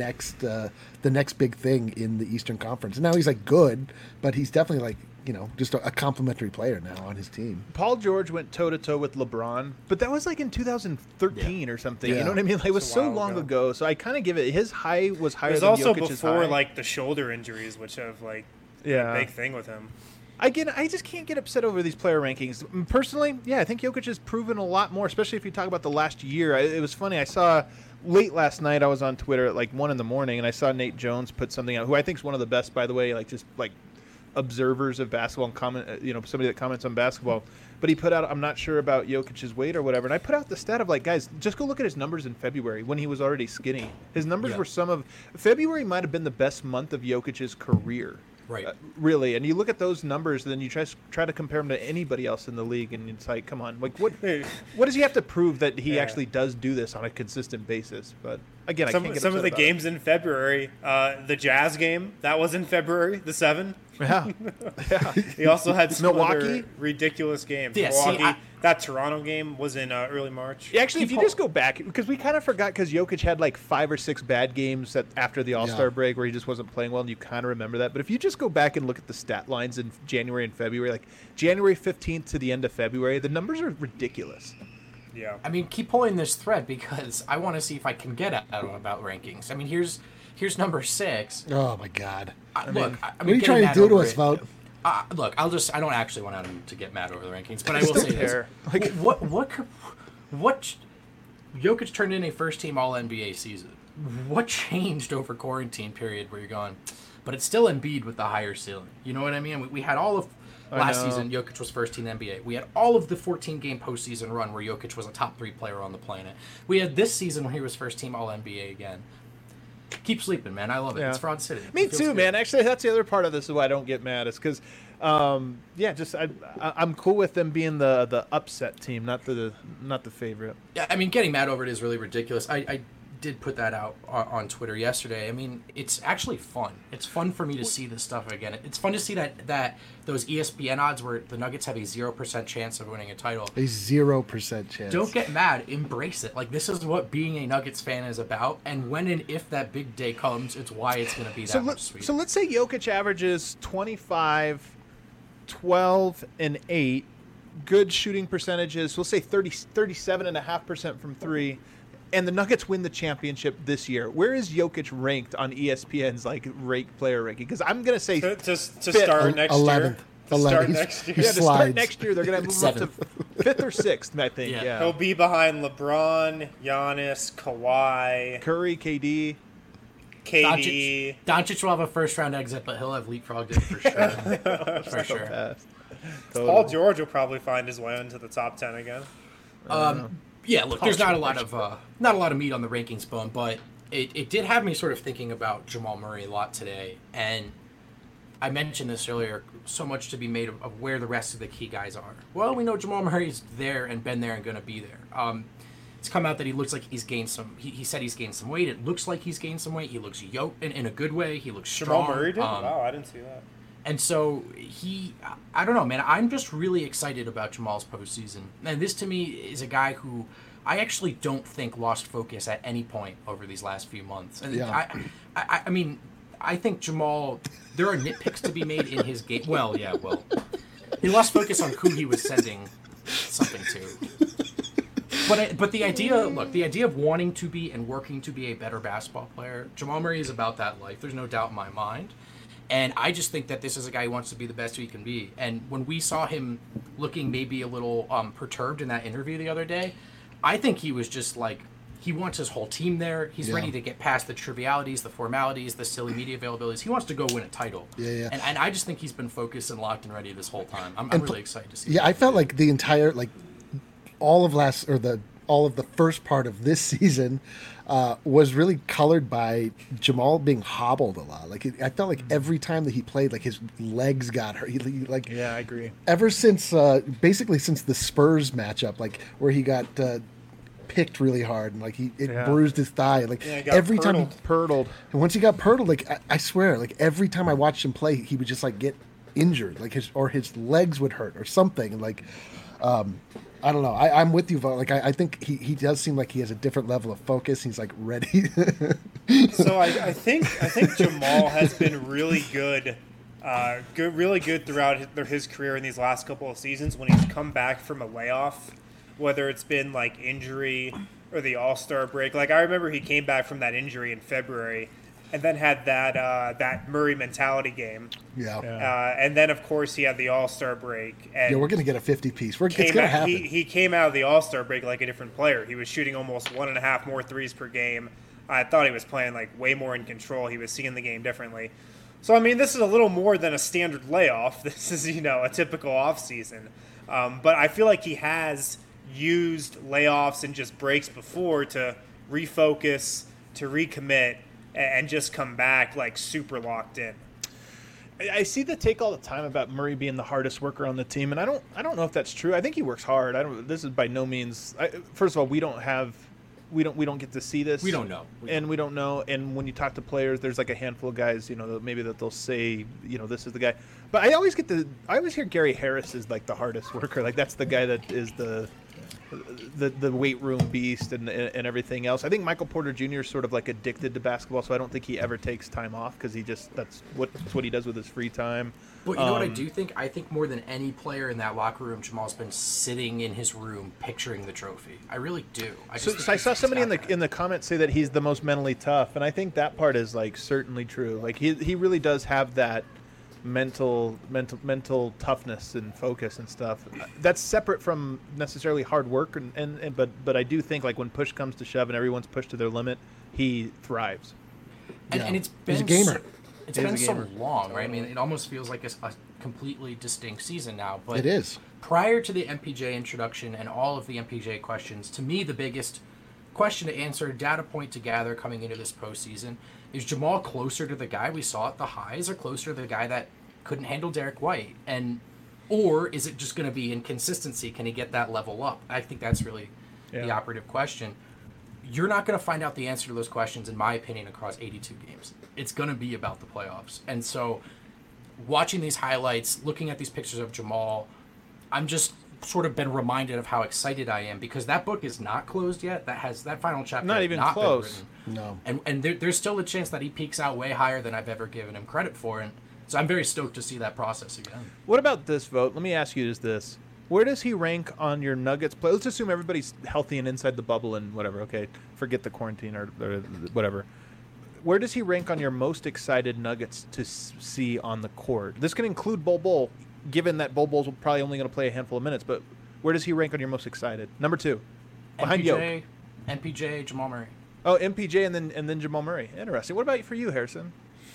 next big thing in the Eastern Conference. And now he's like good, but he's definitely like, just a complimentary player now on his team. Paul George went toe-to-toe with LeBron, but that was like in 2013 or something. Yeah. You know what I mean? Like, it was so long ago. So I kind of give it, his high was higher than Jokic's high. It was also before, like, the shoulder injuries, which have, like, been a big thing with him. I just can't get upset over these player rankings. Personally, yeah, I think Jokic has proven a lot more, especially if you talk about the last year. It was funny. I saw late last night, I was on Twitter at like 1 a.m, and I saw Nate Jones put something out, who I think is one of the best, by the way, like just like observers of basketball and somebody that comments on basketball. But he put out, I'm not sure about Jokic's weight or whatever. And I put out the stat of like, guys, just go look at his numbers in February when he was already skinny. His numbers were February might have been the best month of Jokic's career. Right. Really. And you look at those numbers, and then you try to compare them to anybody else in the league, and it's like, come on. Like, what does he have to prove that he actually does do this on a consistent basis? But, again, I can't get some of the games it. In February, the Jazz game, that was in February, the 7. Yeah. He also had some Milwaukee other ridiculous games. Yeah, Milwaukee, that Toronto game was in early March. Actually, if you just go back, because we kind of forgot, because Jokic had like 5 or 6 bad games after the All-Star break where he just wasn't playing well, and you kind of remember that. But if you just go back and look at the stat lines in January and February, like January 15th to the end of February, the numbers are ridiculous. Yeah. I mean, keep pulling this thread because I want to see if I can get at about rankings. I mean, here's number 6. Oh my God! Look, what are you trying to do to us, Vote? Look, I don't actually want him to get mad over the rankings, but I will say this: what Jokic turned in a first-team All-NBA season. What changed over quarantine period where you're going? But it's still Embiid with the higher ceiling. You know what I mean? We had all of last season. Jokic was first-team NBA. We had all of the 14-game postseason run where Jokic was a top 3 player on the planet. We had this season when he was first-team All-NBA again. Keep sleeping, man. I love it. Yeah. It's Fraud City. Me too, good. Man. Actually, that's the other part of this is why I don't get mad. Is because, I'm cool with them being the upset team, not the favorite. Yeah, I mean, getting mad over it is really ridiculous. I did put that out on Twitter yesterday. I mean, it's actually fun. It's fun for me to see this stuff again. It's fun to see that those ESPN odds where the Nuggets have a 0% chance of winning a title. A 0% chance. Don't get mad. Embrace it. Like, this is what being a Nuggets fan is about. And when and if that big day comes, it's why it's going to be that much sweeter. So let's say Jokic averages 25, 12, and 8. Good shooting percentages. We'll say 37.5% from 3. And the Nuggets win the championship this year. Where is Jokic ranked on ESPN's player ranking? Because I'm going to say to start next 11th. year. 11th. Next year. To start next year, they're going to move up to 5th or 6th, I think. Yeah. He'll be behind LeBron, Giannis, Kawhi, Curry, KD. Doncic will have a first-round exit, but he'll have leapfrogged it for sure. Totally. Paul George will probably find his way into the top 10 again. Yeah, look, there's not a lot of meat on the rankings bone, but it did have me sort of thinking about Jamal Murray a lot today, and I mentioned this earlier, so much to be made of where the rest of the key guys are. Well, we know Jamal Murray's there and been there and going to be there. It's come out that he looks like he's gained some. He said he's gained some weight. It looks like he's gained some weight. He looks yoked in a good way. He looks strong. Jamal Murray did? Wow, I didn't see that. And so I don't know, man. I'm just really excited about Jamal's postseason. And this to me is a guy who I actually don't think lost focus at any point over these last few months. And I mean, I think Jamal, there are nitpicks to be made in his game. Well, he lost focus on who he was sending something to. But the idea of wanting to be and working to be a better basketball player, Jamal Murray is about that life. There's no doubt in my mind. And I just think that this is a guy who wants to be the best he can be. And when we saw him looking maybe a little perturbed in that interview the other day, I think he was just like, he wants his whole team there. He's ready to get past the trivialities, the formalities, the silly media availabilities. He wants to go win a title. Yeah. And I just think he's been focused and locked and ready this whole time. I'm really excited to see I felt like the entire, all of the first part of this season was really colored by Jamal being hobbled a lot. I felt like every time that he played, his legs got hurt. Yeah, I agree. Ever since, basically since the Spurs matchup, where he got picked really hard and it bruised his thigh. Every time Purtled. And once he got purtled, I swear, every time I watched him play, he would just get injured, his legs would hurt or something. I don't know. I'm with you, Vo. I think he does seem like he has a different level of focus. He's ready. So I think Jamal has been really good, really good throughout his career in these last couple of seasons when he's come back from a layoff, whether it's been injury or the All-Star break. I remember he came back from that injury in February and then had that Murray mentality game. Yeah. And then, of course, he had the All-Star break. And we're going to get a 50-piece. It's going to happen. He came out of the All-Star break like a different player. He was shooting almost 1.5 more threes per game. I thought he was playing way more in control. He was seeing the game differently. So, I mean, this is a little more than a standard layoff. This is, a typical offseason. But I feel like he has used layoffs and just breaks before to refocus, to recommit, and just come back super locked in. I see the take all the time about Murray being the hardest worker on the team, and I don't know if that's true. I think he works hard. This is by no means. First of all, we don't get to see this. We don't know. We don't know. And when you talk to players, there's a handful of guys, maybe that they'll say, this is the guy. But I always hear Gary Harris is the hardest worker. That's the guy that is the weight room beast and everything else. I think Michael Porter Jr. is sort of addicted to basketball, so I don't think he ever takes time off because that's what he does with his free time. But you know what I do think? I think more than any player in that locker room, Jamal's been sitting in his room picturing the trophy. I really do. I saw somebody in the comments say that he's the most mentally tough, and I think that part is certainly true. He really does have that mental toughness and focus and stuff. That's separate from necessarily hard work, but I do think when push comes to shove and everyone's pushed to their limit, he thrives. And it's been He's a gamer. It's been so long, right? I mean, it almost feels like a completely distinct season now. But it is. Prior to the MPJ introduction and all of the MPJ questions, to me, the biggest question to answer, data point to gather coming into this postseason, is Jamal closer to the guy we saw at the highs or closer to the guy that couldn't handle Derek White? Or is it just going to be inconsistency? Can he get that level up? I think that's really the operative question. You're not going to find out the answer to those questions, in my opinion, across 82 games. It's going to be about the playoffs. And so watching these highlights, looking at these pictures of Jamal, I'm just sort of been reminded of how excited I am because that book is not closed yet. That final chapter not even not close. Been written. No. And there's still a chance that he peaks out way higher than I've ever given him credit for. And so I'm very stoked to see that process again. What about this vote? Let me ask you this. Where does he rank on your Nuggets play? Let's assume everybody's healthy and inside the bubble and whatever. Okay, forget the quarantine or whatever. Where does he rank on your most excited Nuggets to see on the court? This can include Bol Bol, given that Bol Bol's probably only going to play a handful of minutes. But where does he rank on your most excited? Number 2, behind Yoke. MPJ, Jamal Murray. Oh, MPJ and then Jamal Murray. Interesting. What about for you, Harrison?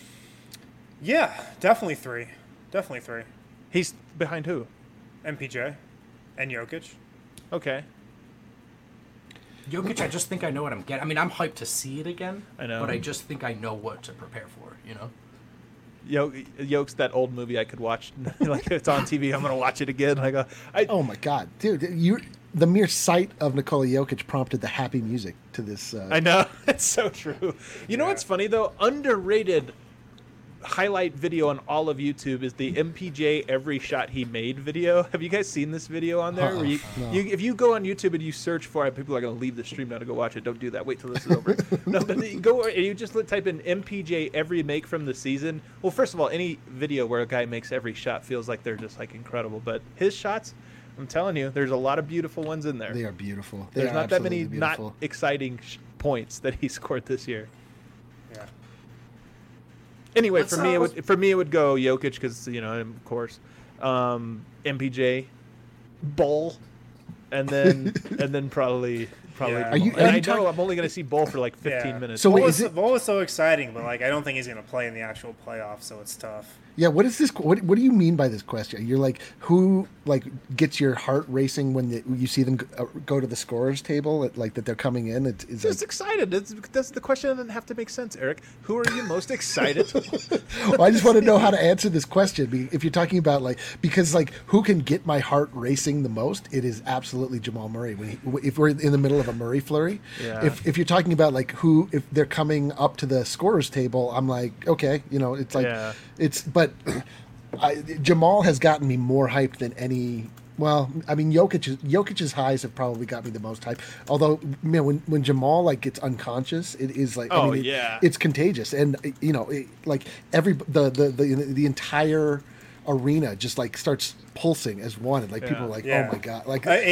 Yeah, definitely 3. Definitely 3. He's behind who? MPJ and Jokic. Okay. Jokic, I just think I know what I'm getting. I mean, I'm hyped to see it again. I know. But I just think I know what to prepare for, you know? Yoke's that old movie I could watch. Like, it's on TV, I'm going to watch it again. Oh, my God. Dude, the mere sight of Nikola Jokic prompted the happy music to this. I know. It's so true. You know what's funny, though? Underrated highlight video on all of YouTube is the MPJ Every Shot He Made video. Have you guys seen this video on there? Where if you go on YouTube and you search for it, people are going to leave the stream now to go watch it. Don't do that. Wait till this is over. No, but you go and you just type in MPJ Every Make from the season. Well, first of all, any video where a guy makes every shot feels like they're just like incredible. But his shots, I'm telling you, there's a lot of beautiful ones in there. They are beautiful. There's not that many not exciting points that he scored this year. Yeah. Anyway, for me it would go Jokic because of course, MPJ, Bull, and then probably. Yeah. I know I'm only going to see Bull for like 15 minutes. So Bull is so exciting, but like I don't think he's going to play in the actual playoffs, so it's tough. Yeah, what is this? What do you mean by this question? You're like, who like gets your heart racing when you see them go to the scorers table? Like that they're coming in. It's just excited. That's the question. Doesn't have to make sense, Eric. Who are you most excited? Well, I just want to know how to answer this question. If you're talking about because who can get my heart racing the most? It is absolutely Jamal Murray. If we're in the middle of a Murray flurry, if you're talking about if they're coming up to the scorers table, I'm like, okay, it's like but Jamal has gotten me more hyped than any. Well, I mean, Jokic's highs have probably got me the most hyped. Although, when Jamal gets unconscious, it is it's contagious, and the entire arena just starts pulsing as one, and people are oh my god,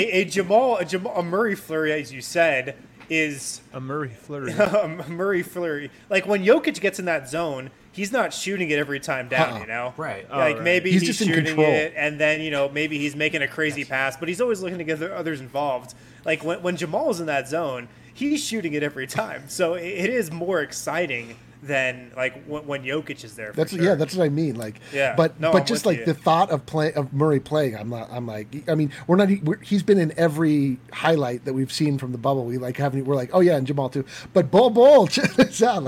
a Murray flurry, as you said, is a Murray flurry. A Murray flurry. Like when Jokic gets in that zone, he's not shooting it every time down, Right. Maybe he's just shooting in control. it, and then, maybe he's making a crazy pass, but he's always looking to get others involved. Like when Jamal's in that zone, he's shooting it every time. So it is more exciting than when Jokic is there. That's sure. that's what I mean. But just the thought of Murray playing, he's been in every highlight that we've seen from the bubble. We're oh yeah, and Jamal too. But Bull, check out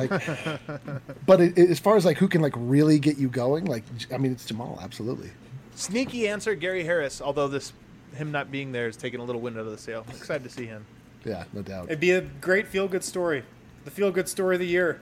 But as far as who can really get you going, it's Jamal, absolutely. Sneaky answer, Gary Harris. Although him not being there is taking a little wind out of the sail. I'm excited to see him. Yeah, no doubt. It'd be a great feel-good story. The feel-good story of the year.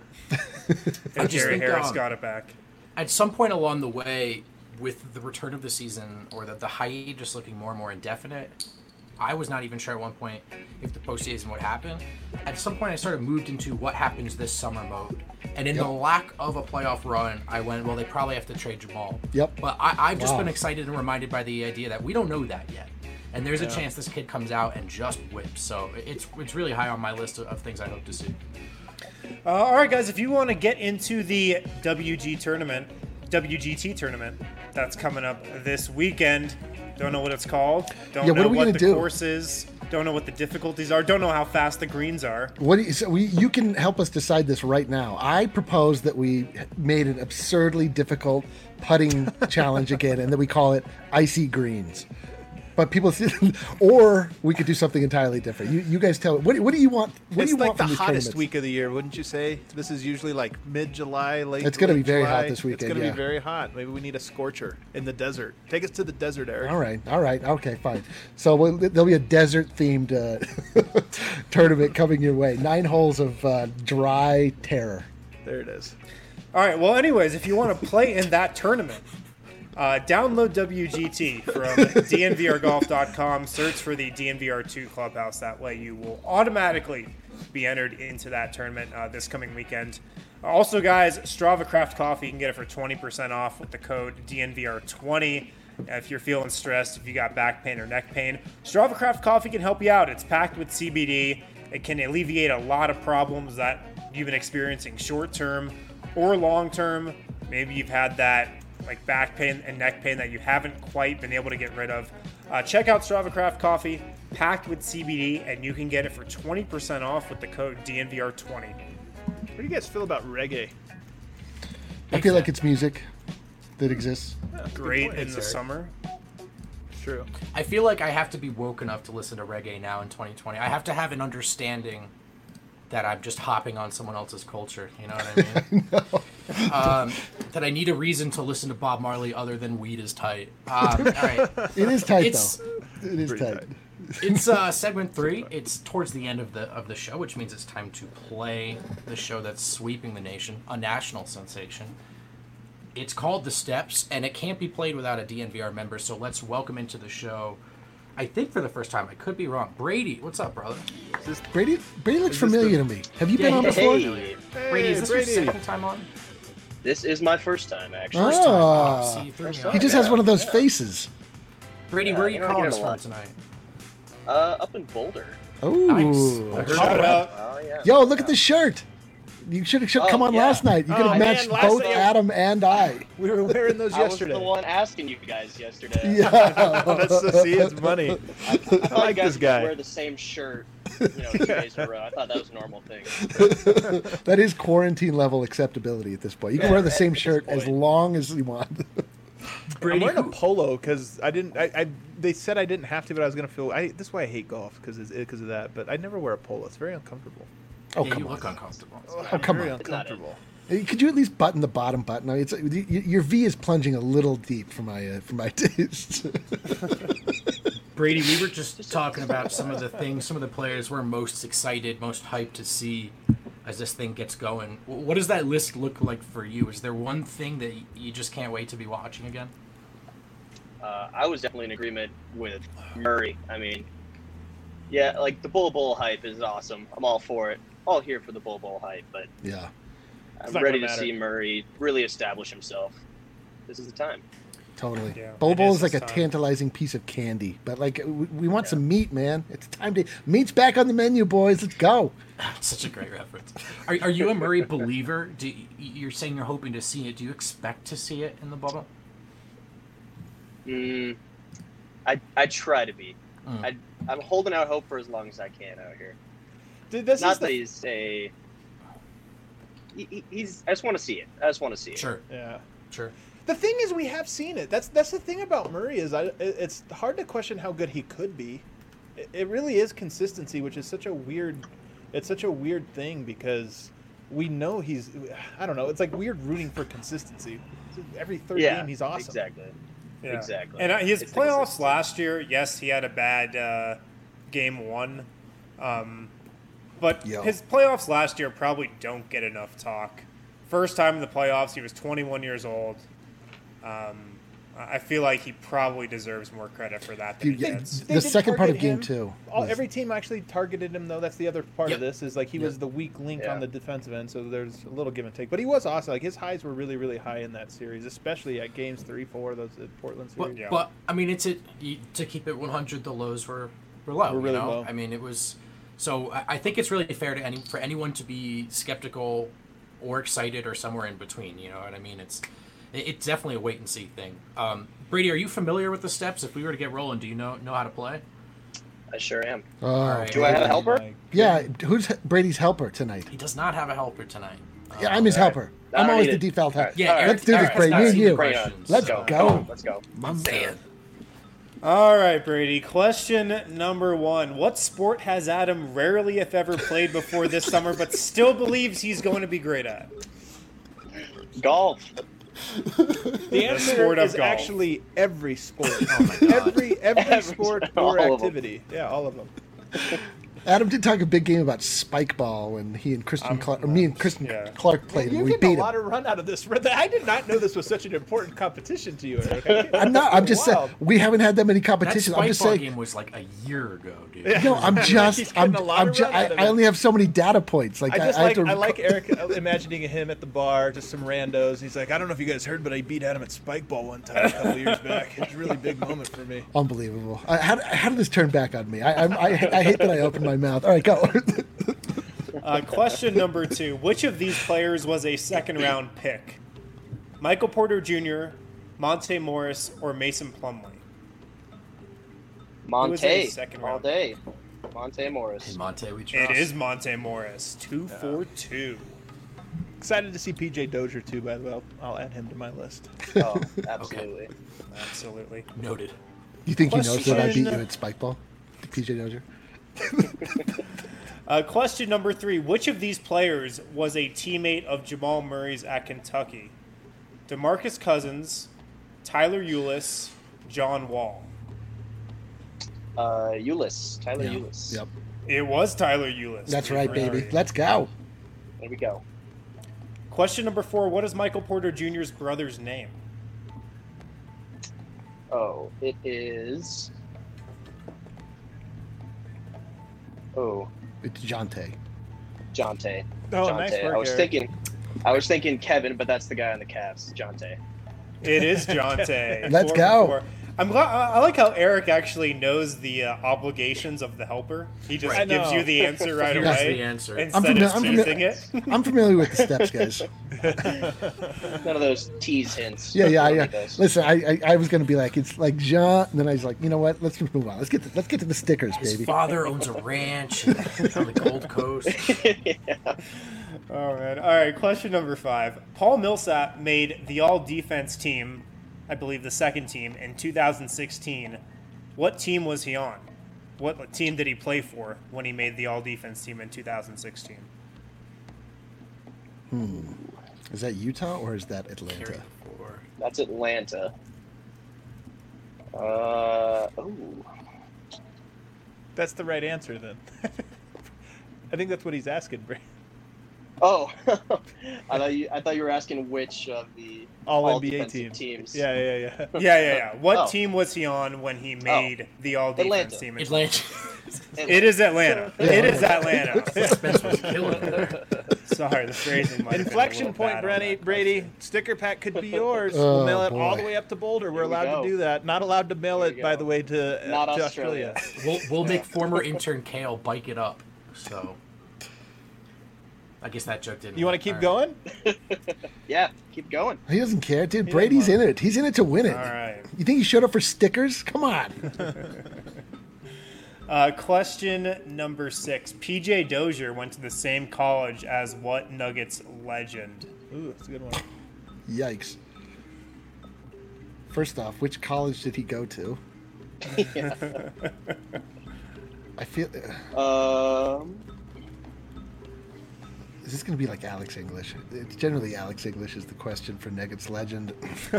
If Gary Harris got it back. At some point along the way, with the return of the season, or the hiatus looking more and more indefinite, I was not even sure at one point if the postseason would happen. At some point, I sort of moved into what happens this summer mode. And in the lack of a playoff run, I went, well, they probably have to trade Jamal. Yep. But I've just been excited and reminded by the idea that we don't know that yet. And there's a chance this kid comes out and just whips. So it's really high on my list of things I hope to see. All right, guys, if you want to get into the WGT tournament that's coming up this weekend, don't know what it's called, don't know what the course is, don't know what the difficulties are, don't know how fast the greens are. You can help us decide this right now. I propose that we made an absurdly difficult putting challenge again, and that we call it Icy Greens. But people, or we could do something entirely different. You guys tell me. What do you want? What do you want from these tournaments? It's the hottest week of the year, wouldn't you say? This is usually mid-July, late. It's going to be very July. hot this weekend. It's going to be very hot. Maybe we need a scorcher in the desert. Take us to the desert, Eric. All right. Okay, fine. So there'll be a desert-themed tournament coming your way. 9 holes of dry terror. There it is. All right. Well, anyways, if you want to play in that tournament, download WGT from dnvrgolf.com. Search for the DNVR2 Clubhouse. That way you will automatically be entered into that tournament this coming weekend. Also, guys, Strava Craft Coffee, you can get it for 20% off with the code DNVR20. If you're feeling stressed, if you got back pain or neck pain, Strava Craft Coffee can help you out. It's packed with CBD. It can alleviate a lot of problems that you've been experiencing short-term or long-term. Maybe you've had that back pain and neck pain that you haven't quite been able to get rid of. Check out Strava Craft Coffee, packed with CBD, and you can get it for 20% off with the code DNVR20. What do you guys feel about reggae? I feel like it's music that exists. Great in the summer. true. I feel like I have to be woke enough to listen to reggae now in 2020. I have to have an understanding that I'm just hopping on someone else's culture. You know what I mean? That I need a reason to listen to Bob Marley other than weed is tight. All right. It is tight, though. It is tight. It's segment 3. It's towards the end of the show, which means it's time to play the show that's sweeping the nation, a national sensation. It's called The Steps, and it can't be played without a DNVR member, so let's welcome into the show, I think for the first time, I could be wrong, Brady. What's up, brother? Brady looks familiar to me. Have you been on before? Brady, is this your second time on? This is my first time, actually. He just has one of those faces. Brady, where are you calling us from tonight? Up in Boulder. Oh, nice. Oh, yeah. Yo, look at the shirt. You should have come on last night. You could have matched both Adam and I. We were wearing those yesterday. I was the one asking you guys yesterday. Yeah. That's to see his money. I like this guy. Wear the same shirt, 2 days in a row. I thought that was a normal thing. That is quarantine level acceptability at this point. You can wear the same shirt as long as you want. I'm wearing a polo because I didn't. They said I didn't have to, but I was gonna feel. This is why I hate golf because of that. But I never wear a polo. It's very uncomfortable. Oh, yeah, come you on. look uncomfortable. Oh, come very on. uncomfortable. Could you at least button the bottom button? I mean, your V is plunging a little deep for my taste. Brady, we were just talking about some of the players we're most excited, most hyped to see as this thing gets going. What does that list look like for you? Is there one thing that you just can't wait to be watching again? I was definitely in agreement with Murray. I mean, yeah, like the Bull Bowl hype is awesome. I'm all for it. All here for the Bull Bowl hype, but yeah, I'm ready to see Murray really establish himself. This is the time. Totally. Yeah, Bull Bowl it is like a time. tantalizing piece of candy, but like we want some meat, man. It's time to meat's back on the menu, boys. Let's go. Such a great reference. Are you a Murray believer? You're saying you're hoping to see it. Do you expect to see it in the bubble? I try to be. I'm holding out hope for as long as I can out here. Dude, Not that he's a. He's. I just want to see it. I just want to see it. Sure. Yeah. Sure. The thing is, we have seen it. That's the thing about Murray is it's hard to question how good he could be. It really is consistency, which is such a weird. It's such a weird thing because we know he's. I don't know. It's like weird rooting for consistency. Every third game, he's awesome. Exactly. Yeah. Exactly. And his It's playoffs last year, yes, he had a bad game 1. But his playoffs last year probably don't get enough talk. First time in the playoffs, he was 21 years old. I feel like he probably deserves more credit for that than he gets. The second part of game 2. Every team actually targeted him, though. That's the other part of this is like he was the weak link on the defensive end, so there's a little give and take. But he was awesome. Like his highs were really, really high in that series, especially at games 3, 4, those at Portland series. But I mean, to keep it 100, the lows were low. Were really low. I mean, it was. So I think it's really fair to for anyone to be skeptical or excited or somewhere in between. You know what I mean? It's definitely a wait and see thing. Brady, are you familiar with the steps? If we were to get rolling, do you know how to play? I sure am. Right. Do I have a helper? Yeah. Who's Brady's helper tonight? He does not have a helper tonight. Yeah, I'm his helper. I'm always the default helper. Yeah, let's do this, Brady. Me and you. Let's go. Let's go. My man. All right, Brady. Question number 1. What sport has Adam rarely, if ever, played before this summer, but still believes he's going to be great at? Golf. The answer sport of is golf. actually every sport. Oh my God. Every sport or all of them. activity. Yeah, all of them. Adam did talk a big game about spike ball when he and Kristen Clark, or me and Kristen Clark played. You're and we getting beat a him. lot of run out of this. I did not know this was such an important competition to you, Eric. I'm not. I'm just saying Wild. we haven't had that many That competitions. I'm spike just ball saying. game was like a year ago, dude. No, I'm just. He's getting a lot of run out of I it. only have so many data points. Like I have to. like Eric imagining him at the bar, just some randos. He's like, I don't know if you guys heard, but I beat Adam at spike ball one time a couple years back. It's a really big moment for me. Unbelievable. How did this turn back on me? I hate that I opened my mouth. All right, go. Question number 2. Which of these players was a second-round pick? Michael Porter Jr., Monte Morris, or Mason Plumlee? Monte. second All round? day. Monte Morris. Hey, Monte, we trust. It is Monte Morris. 2 for 2. Excited to see PJ Dozier too, by the way. I'll add him to my list. Oh, absolutely. Absolutely. Noted. You think he knows that I beat you Question- at Spikeball? PJ Dozier? Question number 3. Which of these players was a teammate of Jamal Murray's at Kentucky? DeMarcus Cousins, Tyler Eulis, John Wall. Eulis. Tyler Yeah. Eulis. Yep. It was Tyler Eulis. That's to be right, very baby. right. Let's go. There we go. Question number 4. What is Michael Porter Jr.'s brother's name? Oh, it is. Oh, It's Jonte. Jonte. Oh, Jonte. nice work, I was thinking Kevin, but that's the guy on the Cavs. Jonte. It is Jonte. Let's 4 go. for 4. I'm glad. I like how Eric actually knows the obligations of the helper. He just I gives know. you the answer right He knows away the answer. instead of teasing it. I'm familiar with the steps, guys. None of those tease hints. Yeah. Don't need those. Listen, I was gonna be like, it's like Jean, and then I was like, you know what? Let's just move on. Let's get to the stickers, His baby. father owns a ranch on the Gold Coast. Oh man! All right. Question number 5. Paul Millsap made the All-Defense team, I believe the second team, in 2016. What team was he on? What team did he play for when he made the All-Defense team in 2016? Is that Utah or is that Atlanta? Carry the 4. That's Atlanta. Oh. That's the right answer then. I think that's what he's asking, Bray. Oh. I thought you were asking which of the All NBA defensive teams. teams. Yeah. Yeah. What Oh. team was he on when he made the All-Defense Atlanta. team? Atlanta. It is Atlanta. It is Atlanta. Spence was killing it. Sorry, the phrasing might have been a Inflection little point, bad on that Brady. Sticker pack could be yours. Oh, We'll mail it all boy. the way up to Boulder. We're Here we allowed go. to do that. Not allowed to mail Here it, we by go. the way, to Not Australia. We'll make former intern Kale bike it up. So I guess that joke didn't. You want to keep All right. going? Yeah, keep going. He doesn't care, dude. Brady's in it. He's in it to win it. All right. You think he showed up for stickers? Come on. Question number 6. PJ Dozier went to the same college as what Nuggets legend? Ooh, that's a good one. Yikes. First off, which college did he go to? I feel. Is this going to be like Alex English? It's generally Alex English is the question for Nuggets legend.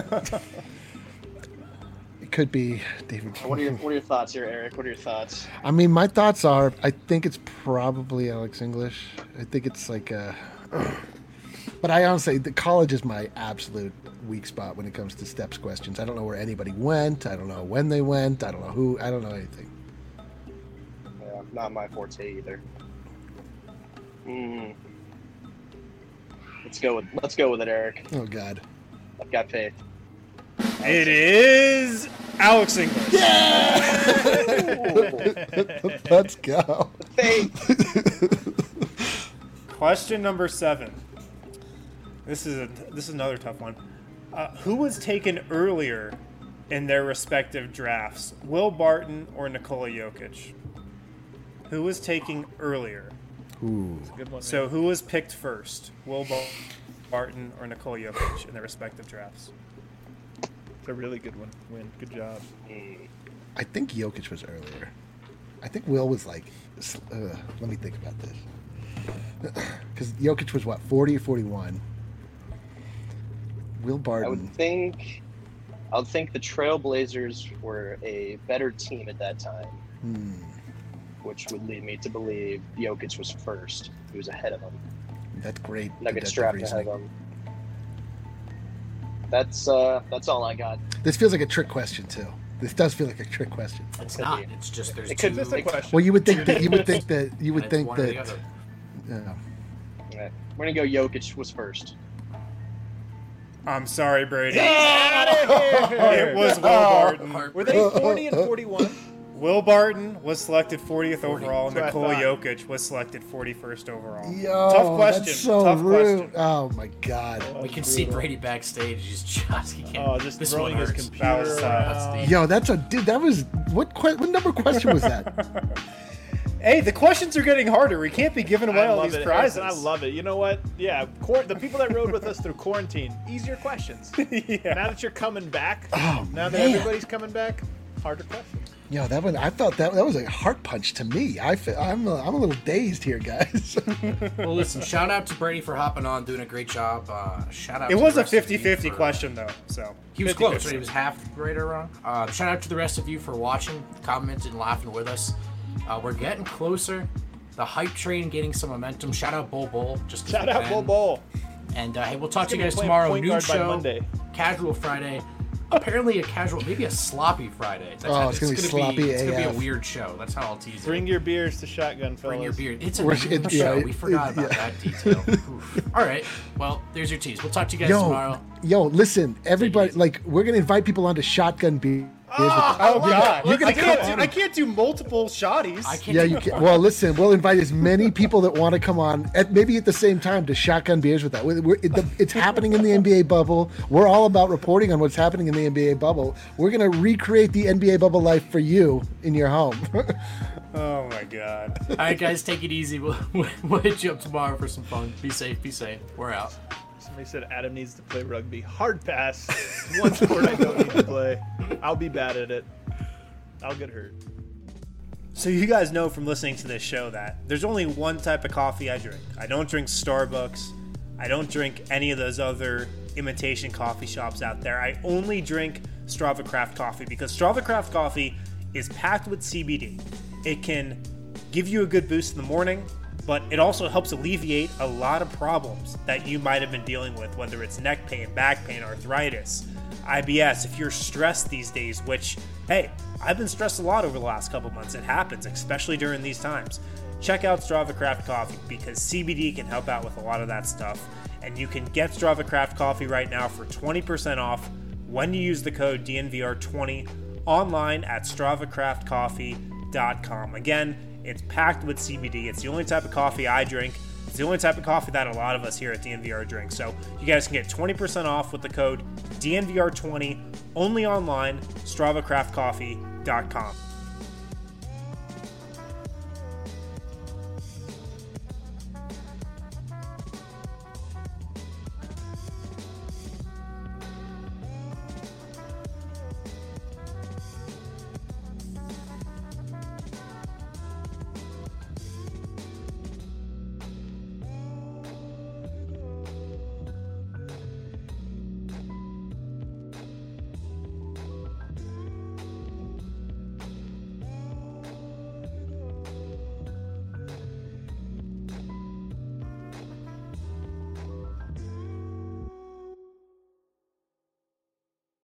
It could be David. What are your thoughts here, Eric? What are your thoughts? I mean, my thoughts are, I think it's probably Alex English. I think it's like but I honestly, the college is my absolute weak spot when it comes to steps questions. I don't know where anybody went. I don't know when they went. I don't know who. I don't know anything. Yeah, not my forte either. Let's go with it, Eric. Oh God. I've got faith. It is Alex English. Let's go. Question number 7. This is another tough one. Who was taken earlier in their respective drafts, Will Barton or Nikola Jokic? Who was taken earlier? Ooh. Good one. So who was picked first, Will Barton or Nikola Jokic in their respective drafts? It's a really good one. Win. Good job. I think Jokic was earlier. I think Will was like, let me think about this. Because Jokic was what, 40 or 41? Will I Barton. would think the Trailblazers were a better team at that time, which would lead me to believe Jokic was first. He was ahead of him. That's great. Nuggets deductive drafted ahead reasoning. of him. That's all I got. This feels like a trick question too. This does feel like a trick question. It's not. It's just there's It two. could just a question. Well, you would think that you would and it's think one or the that. other. Yeah. Right. We're gonna go Jokic was first. I'm sorry, Brady. It It was Will Barton. Were they 40 and 41? Will Barton was selected 40th overall, and That's what Nikola I thought. Jokic was selected 41st overall. Yo, Tough question. That's so Tough rude. question. Oh my God. We can see Brady backstage. He's just he can't. Oh, just this throwing one his hurts. computer was, around. Yo, that's a dude. That was what number question was that? Hey, the questions are getting harder. We can't be giving away I all love these it. prizes. I love it. You know what? Yeah, the people that rode with us through quarantine, easier questions. Yeah. Now that you're coming back, Oh, now that man. everybody's coming back, harder questions. Yo, that one, I felt that was a heart punch to me. I'm a little dazed here, guys. Well, listen, shout out to Brady for hopping on, doing a great job. Shout out. It to was the a rest of you 50-50 for- question, though. So He was 50-50. close, right? He was half right or wrong. Shout out to the rest of you for watching, commenting, and laughing with us. We're getting closer. The hype train getting some momentum. Shout out Bull Bull. Just 'cause Shout we out can. Bull Bull. And hey, we'll talk to you gonna guys be playing tomorrow. point Noon guard by show, Monday. casual Friday. Apparently a casual, maybe a sloppy Friday. It's gonna be sloppy It's gonna be a AF. weird show. That's how I'll tease it. Bring your beers to Shotgun, fellas. Bring your beer. It's a We're- noon it- show. yeah, We forgot about yeah. that detail. Oof. All right. Well, there's your tease. We'll talk to you guys tomorrow. Yo, listen, everybody, like, we're gonna invite people onto Shotgun Beers. Oh God! You're gonna I can't do multiple shotties. I can't. Yeah, you can. Well, listen, we'll invite as many people that want to come on, maybe at the same time, to Shotgun Beers with that. It's happening in the NBA bubble. We're all about reporting on what's happening in the NBA bubble. We're going to recreate the NBA bubble life for you in your home. Oh my God! All right, guys, take it easy. We'll hit you up tomorrow for some fun. Be safe. Be safe. We're out. Somebody said Adam needs to play rugby. Hard pass. One sport I don't need to play. I'll be bad at it. I'll get hurt. So you guys know from listening to this show that there's only one type of coffee I drink. I don't drink Starbucks. I don't drink any of those other imitation coffee shops out there. I only drink Strava Craft Coffee because Strava Craft Coffee is packed with CBD. It can give you a good boost in the morning, but it also helps alleviate a lot of problems that you might have been dealing with, whether it's neck pain, back pain, arthritis, IBS. If you're stressed these days, which, hey, I've been stressed a lot over the last couple months. It happens, especially during these times. Check out Strava Craft Coffee because CBD can help out with a lot of that stuff. And you can get Strava Craft Coffee right now for 20% off when you use the code DNVR20 online at StravaCraftCoffee.com. Again, it's packed with CBD. It's the only type of coffee I drink. It's the only type of coffee that a lot of us here at DNVR drink. So you guys can get 20% off with the code DNVR20 only online, StravaCraftCoffee.com.